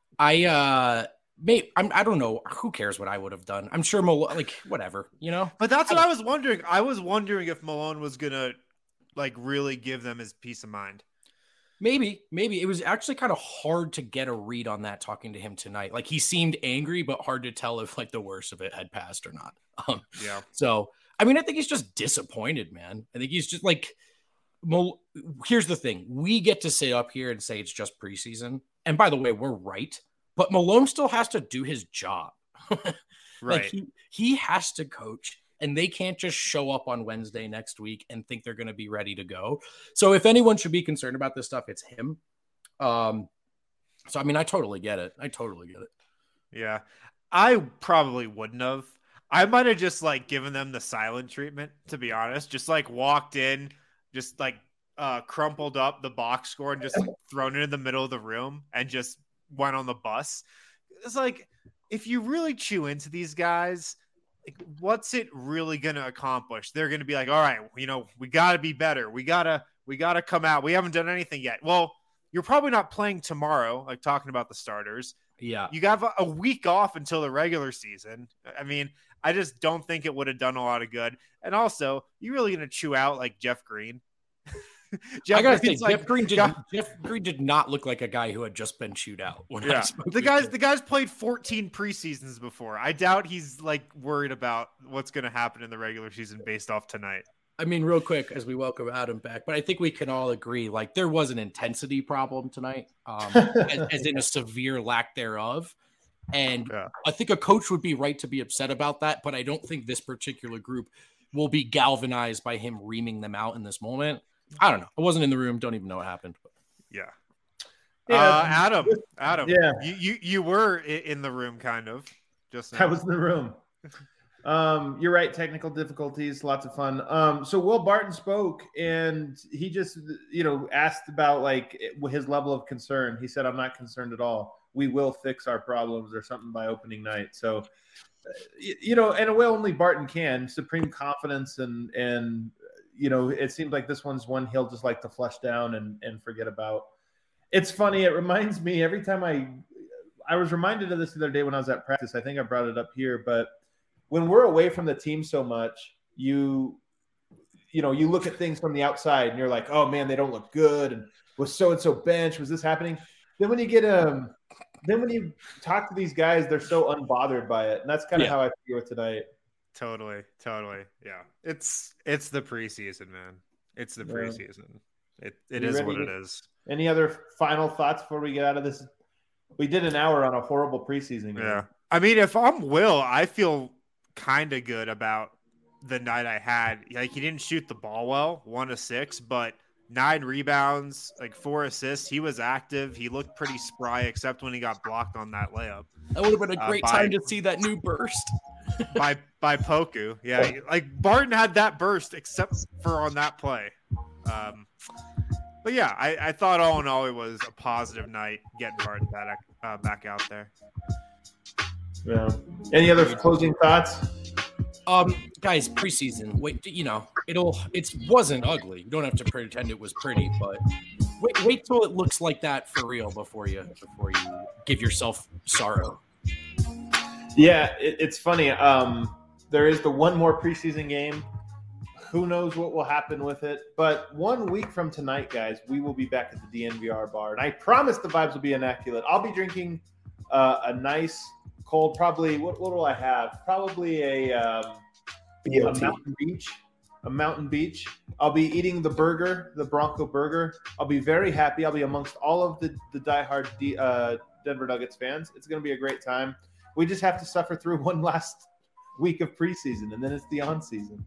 [SPEAKER 5] I don't know. Who cares what I would have done? I'm sure whatever, you know.
[SPEAKER 3] But that's what I was wondering. I was wondering if Malone was gonna really give them his peace of mind.
[SPEAKER 5] Maybe it was actually kind of hard to get a read on that talking to him tonight. Like he seemed angry, but hard to tell if the worst of it had passed or not.
[SPEAKER 3] Yeah.
[SPEAKER 5] So I mean, I think he's just disappointed, man. I think he's just here's the thing: we get to sit up here and say it's just preseason, and by the way, we're right. But Malone still has to do his job.
[SPEAKER 3] Right.
[SPEAKER 5] He has to coach, and they can't just show up on Wednesday next week and think they're going to be ready to go. So if anyone should be concerned about this stuff, it's him. So, I mean, I totally get it.
[SPEAKER 3] Yeah. I probably wouldn't have. I might have just given them the silent treatment, to be honest. Just walked in, just crumpled up the box score and just thrown it in the middle of the room and just went on the bus. It's if you really chew into these guys, what's it really going to accomplish? They're going to be all right, we got to be better. We got to come out. We haven't done anything yet. Well, you're probably not playing tomorrow, talking about the starters.
[SPEAKER 5] Yeah.
[SPEAKER 3] You got a week off until the regular season. I mean, I just don't think it would have done a lot of good. And also, you really going to chew out Jeff Green?
[SPEAKER 5] I gotta say, Jeff Green did not look like a guy who had just been chewed out.
[SPEAKER 3] The guy's played 14 preseasons before. I doubt he's worried about what's going to happen in the regular season based off tonight.
[SPEAKER 5] I mean, real quick as we welcome Adam back, but I think we can all agree there was an intensity problem tonight, as in a severe lack thereof. And I think a coach would be right to be upset about that, but I don't think this particular group will be galvanized by him reaming them out in this moment. I don't know. I wasn't in the room. Don't even know what happened.
[SPEAKER 3] Yeah. Adam.
[SPEAKER 2] Yeah.
[SPEAKER 3] You were in the room, kind of. Just now.
[SPEAKER 2] I was in the room. You're right. Technical difficulties. Lots of fun. So Will Barton spoke, and he just, asked about his level of concern. He said, "I'm not concerned at all. We will fix our problems," or something by opening night. So, and a way only Barton can. Supreme confidence and. It seems like this one's one he'll just like to flush down and forget about. It's funny. It reminds me every time I was reminded of this the other day when I was at practice. I think I brought it up here, but when we're away from the team so much, you look at things from the outside and you're like, oh man, they don't look good. And was so-and-so bench? Was this happening? Then when you talk to these guys, they're so unbothered by it. And that's kind of how I feel with tonight.
[SPEAKER 3] Totally. Yeah. It's the preseason, man. It's the preseason. It is what it is.
[SPEAKER 2] Any other final thoughts before we get out of this? We did an hour on a horrible preseason game.
[SPEAKER 3] Yeah. I mean, if I'm Will, I feel kind of good about the night I had. He didn't shoot the ball well, 1 of 6, but 9 rebounds, 4 assists. He was active. He looked pretty spry, except when he got blocked on that layup.
[SPEAKER 5] That would have been a great time to see that new burst.
[SPEAKER 3] by Poku. Yeah. Barton had that burst except for on that play. But yeah, I thought all in all, it was a positive night getting Barton back out there.
[SPEAKER 2] Yeah. Any other closing thoughts?
[SPEAKER 5] Guys, preseason. Wait, it wasn't ugly. You don't have to pretend it was pretty, but wait till it looks like that for real before you give yourself sorrow.
[SPEAKER 2] Yeah, it's funny. There is the one more preseason game. Who knows what will happen with it? But 1 week from tonight, guys, we will be back at the DNVR bar, and I promise the vibes will be immaculate. I'll be drinking a nice cold, probably. What will I have? Probably a Mountain Beach. I'll be eating the burger, the Bronco burger. I'll be very happy. I'll be amongst all of the diehard Denver Nuggets fans. It's going to be a great time. We just have to suffer through one last week of preseason, and then it's the on season.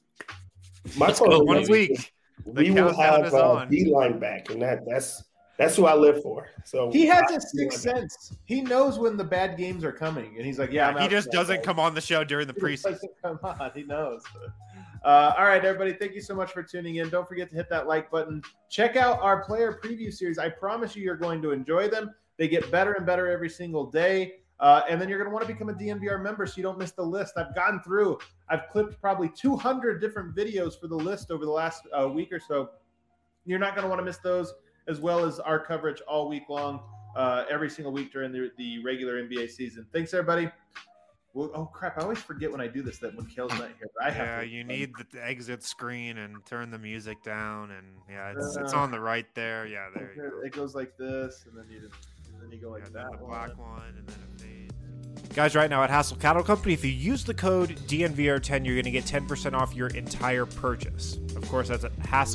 [SPEAKER 4] My
[SPEAKER 3] 1 week.
[SPEAKER 4] We will have D-line back, and that's who I live for. So
[SPEAKER 2] he has a sixth sense. He knows when the bad games are coming, and he's like, "Yeah."
[SPEAKER 3] He just doesn't come on the show during the preseason.
[SPEAKER 2] Come on, he knows. All right, everybody. Thank you so much for tuning in. Don't forget to hit that like button. Check out our player preview series. I promise you, you're going to enjoy them. They get better and better every single day. And then you're going to want to become a DNVR member so you don't miss the list. I've clipped probably 200 different videos for the list over the last week or so. You're not going to want to miss those, as well as our coverage all week long, every single week during the regular NBA season. Thanks, everybody. Well, oh, crap. I always forget when I do this that when Kale's not here.
[SPEAKER 3] You need the exit screen and turn the music down. And, it's on the right there. Yeah, there you go.
[SPEAKER 2] It goes like this, and then you go like that.
[SPEAKER 3] The black one, and then it fades. Guys, right now at Hassel Cattle Company, if you use the code DNVR10, you're going to get 10% off your entire purchase. Of course, that's at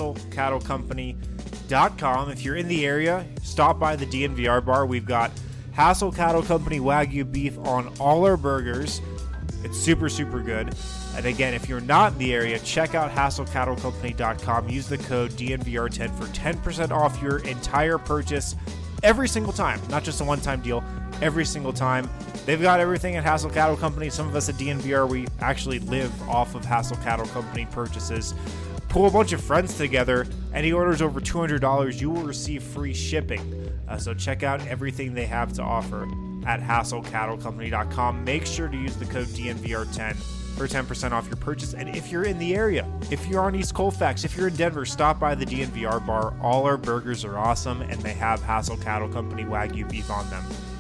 [SPEAKER 3] HassleCattleCompany.com. If you're in the area, stop by the DNVR bar. We've got Hassel Cattle Company Wagyu beef on all our burgers. It's super, super good. And again, if you're not in the area, check out HassleCattleCompany.com. Use the code DNVR10 for 10% off your entire purchase every single time. Not just a one-time deal, every single time. They've got everything at Hassel Cattle Company. Some of us at DNVR, we actually live off of Hassel Cattle Company purchases. Pull a bunch of friends together. Any orders over $200, you will receive free shipping. So check out everything they have to offer at HassleCattleCompany.com. Make sure to use the code DNVR10 for 10% off your purchase. And if you're in the area, if you're on East Colfax, if you're in Denver, stop by the DNVR bar. All our burgers are awesome, and they have Hassel Cattle Company Wagyu beef on them.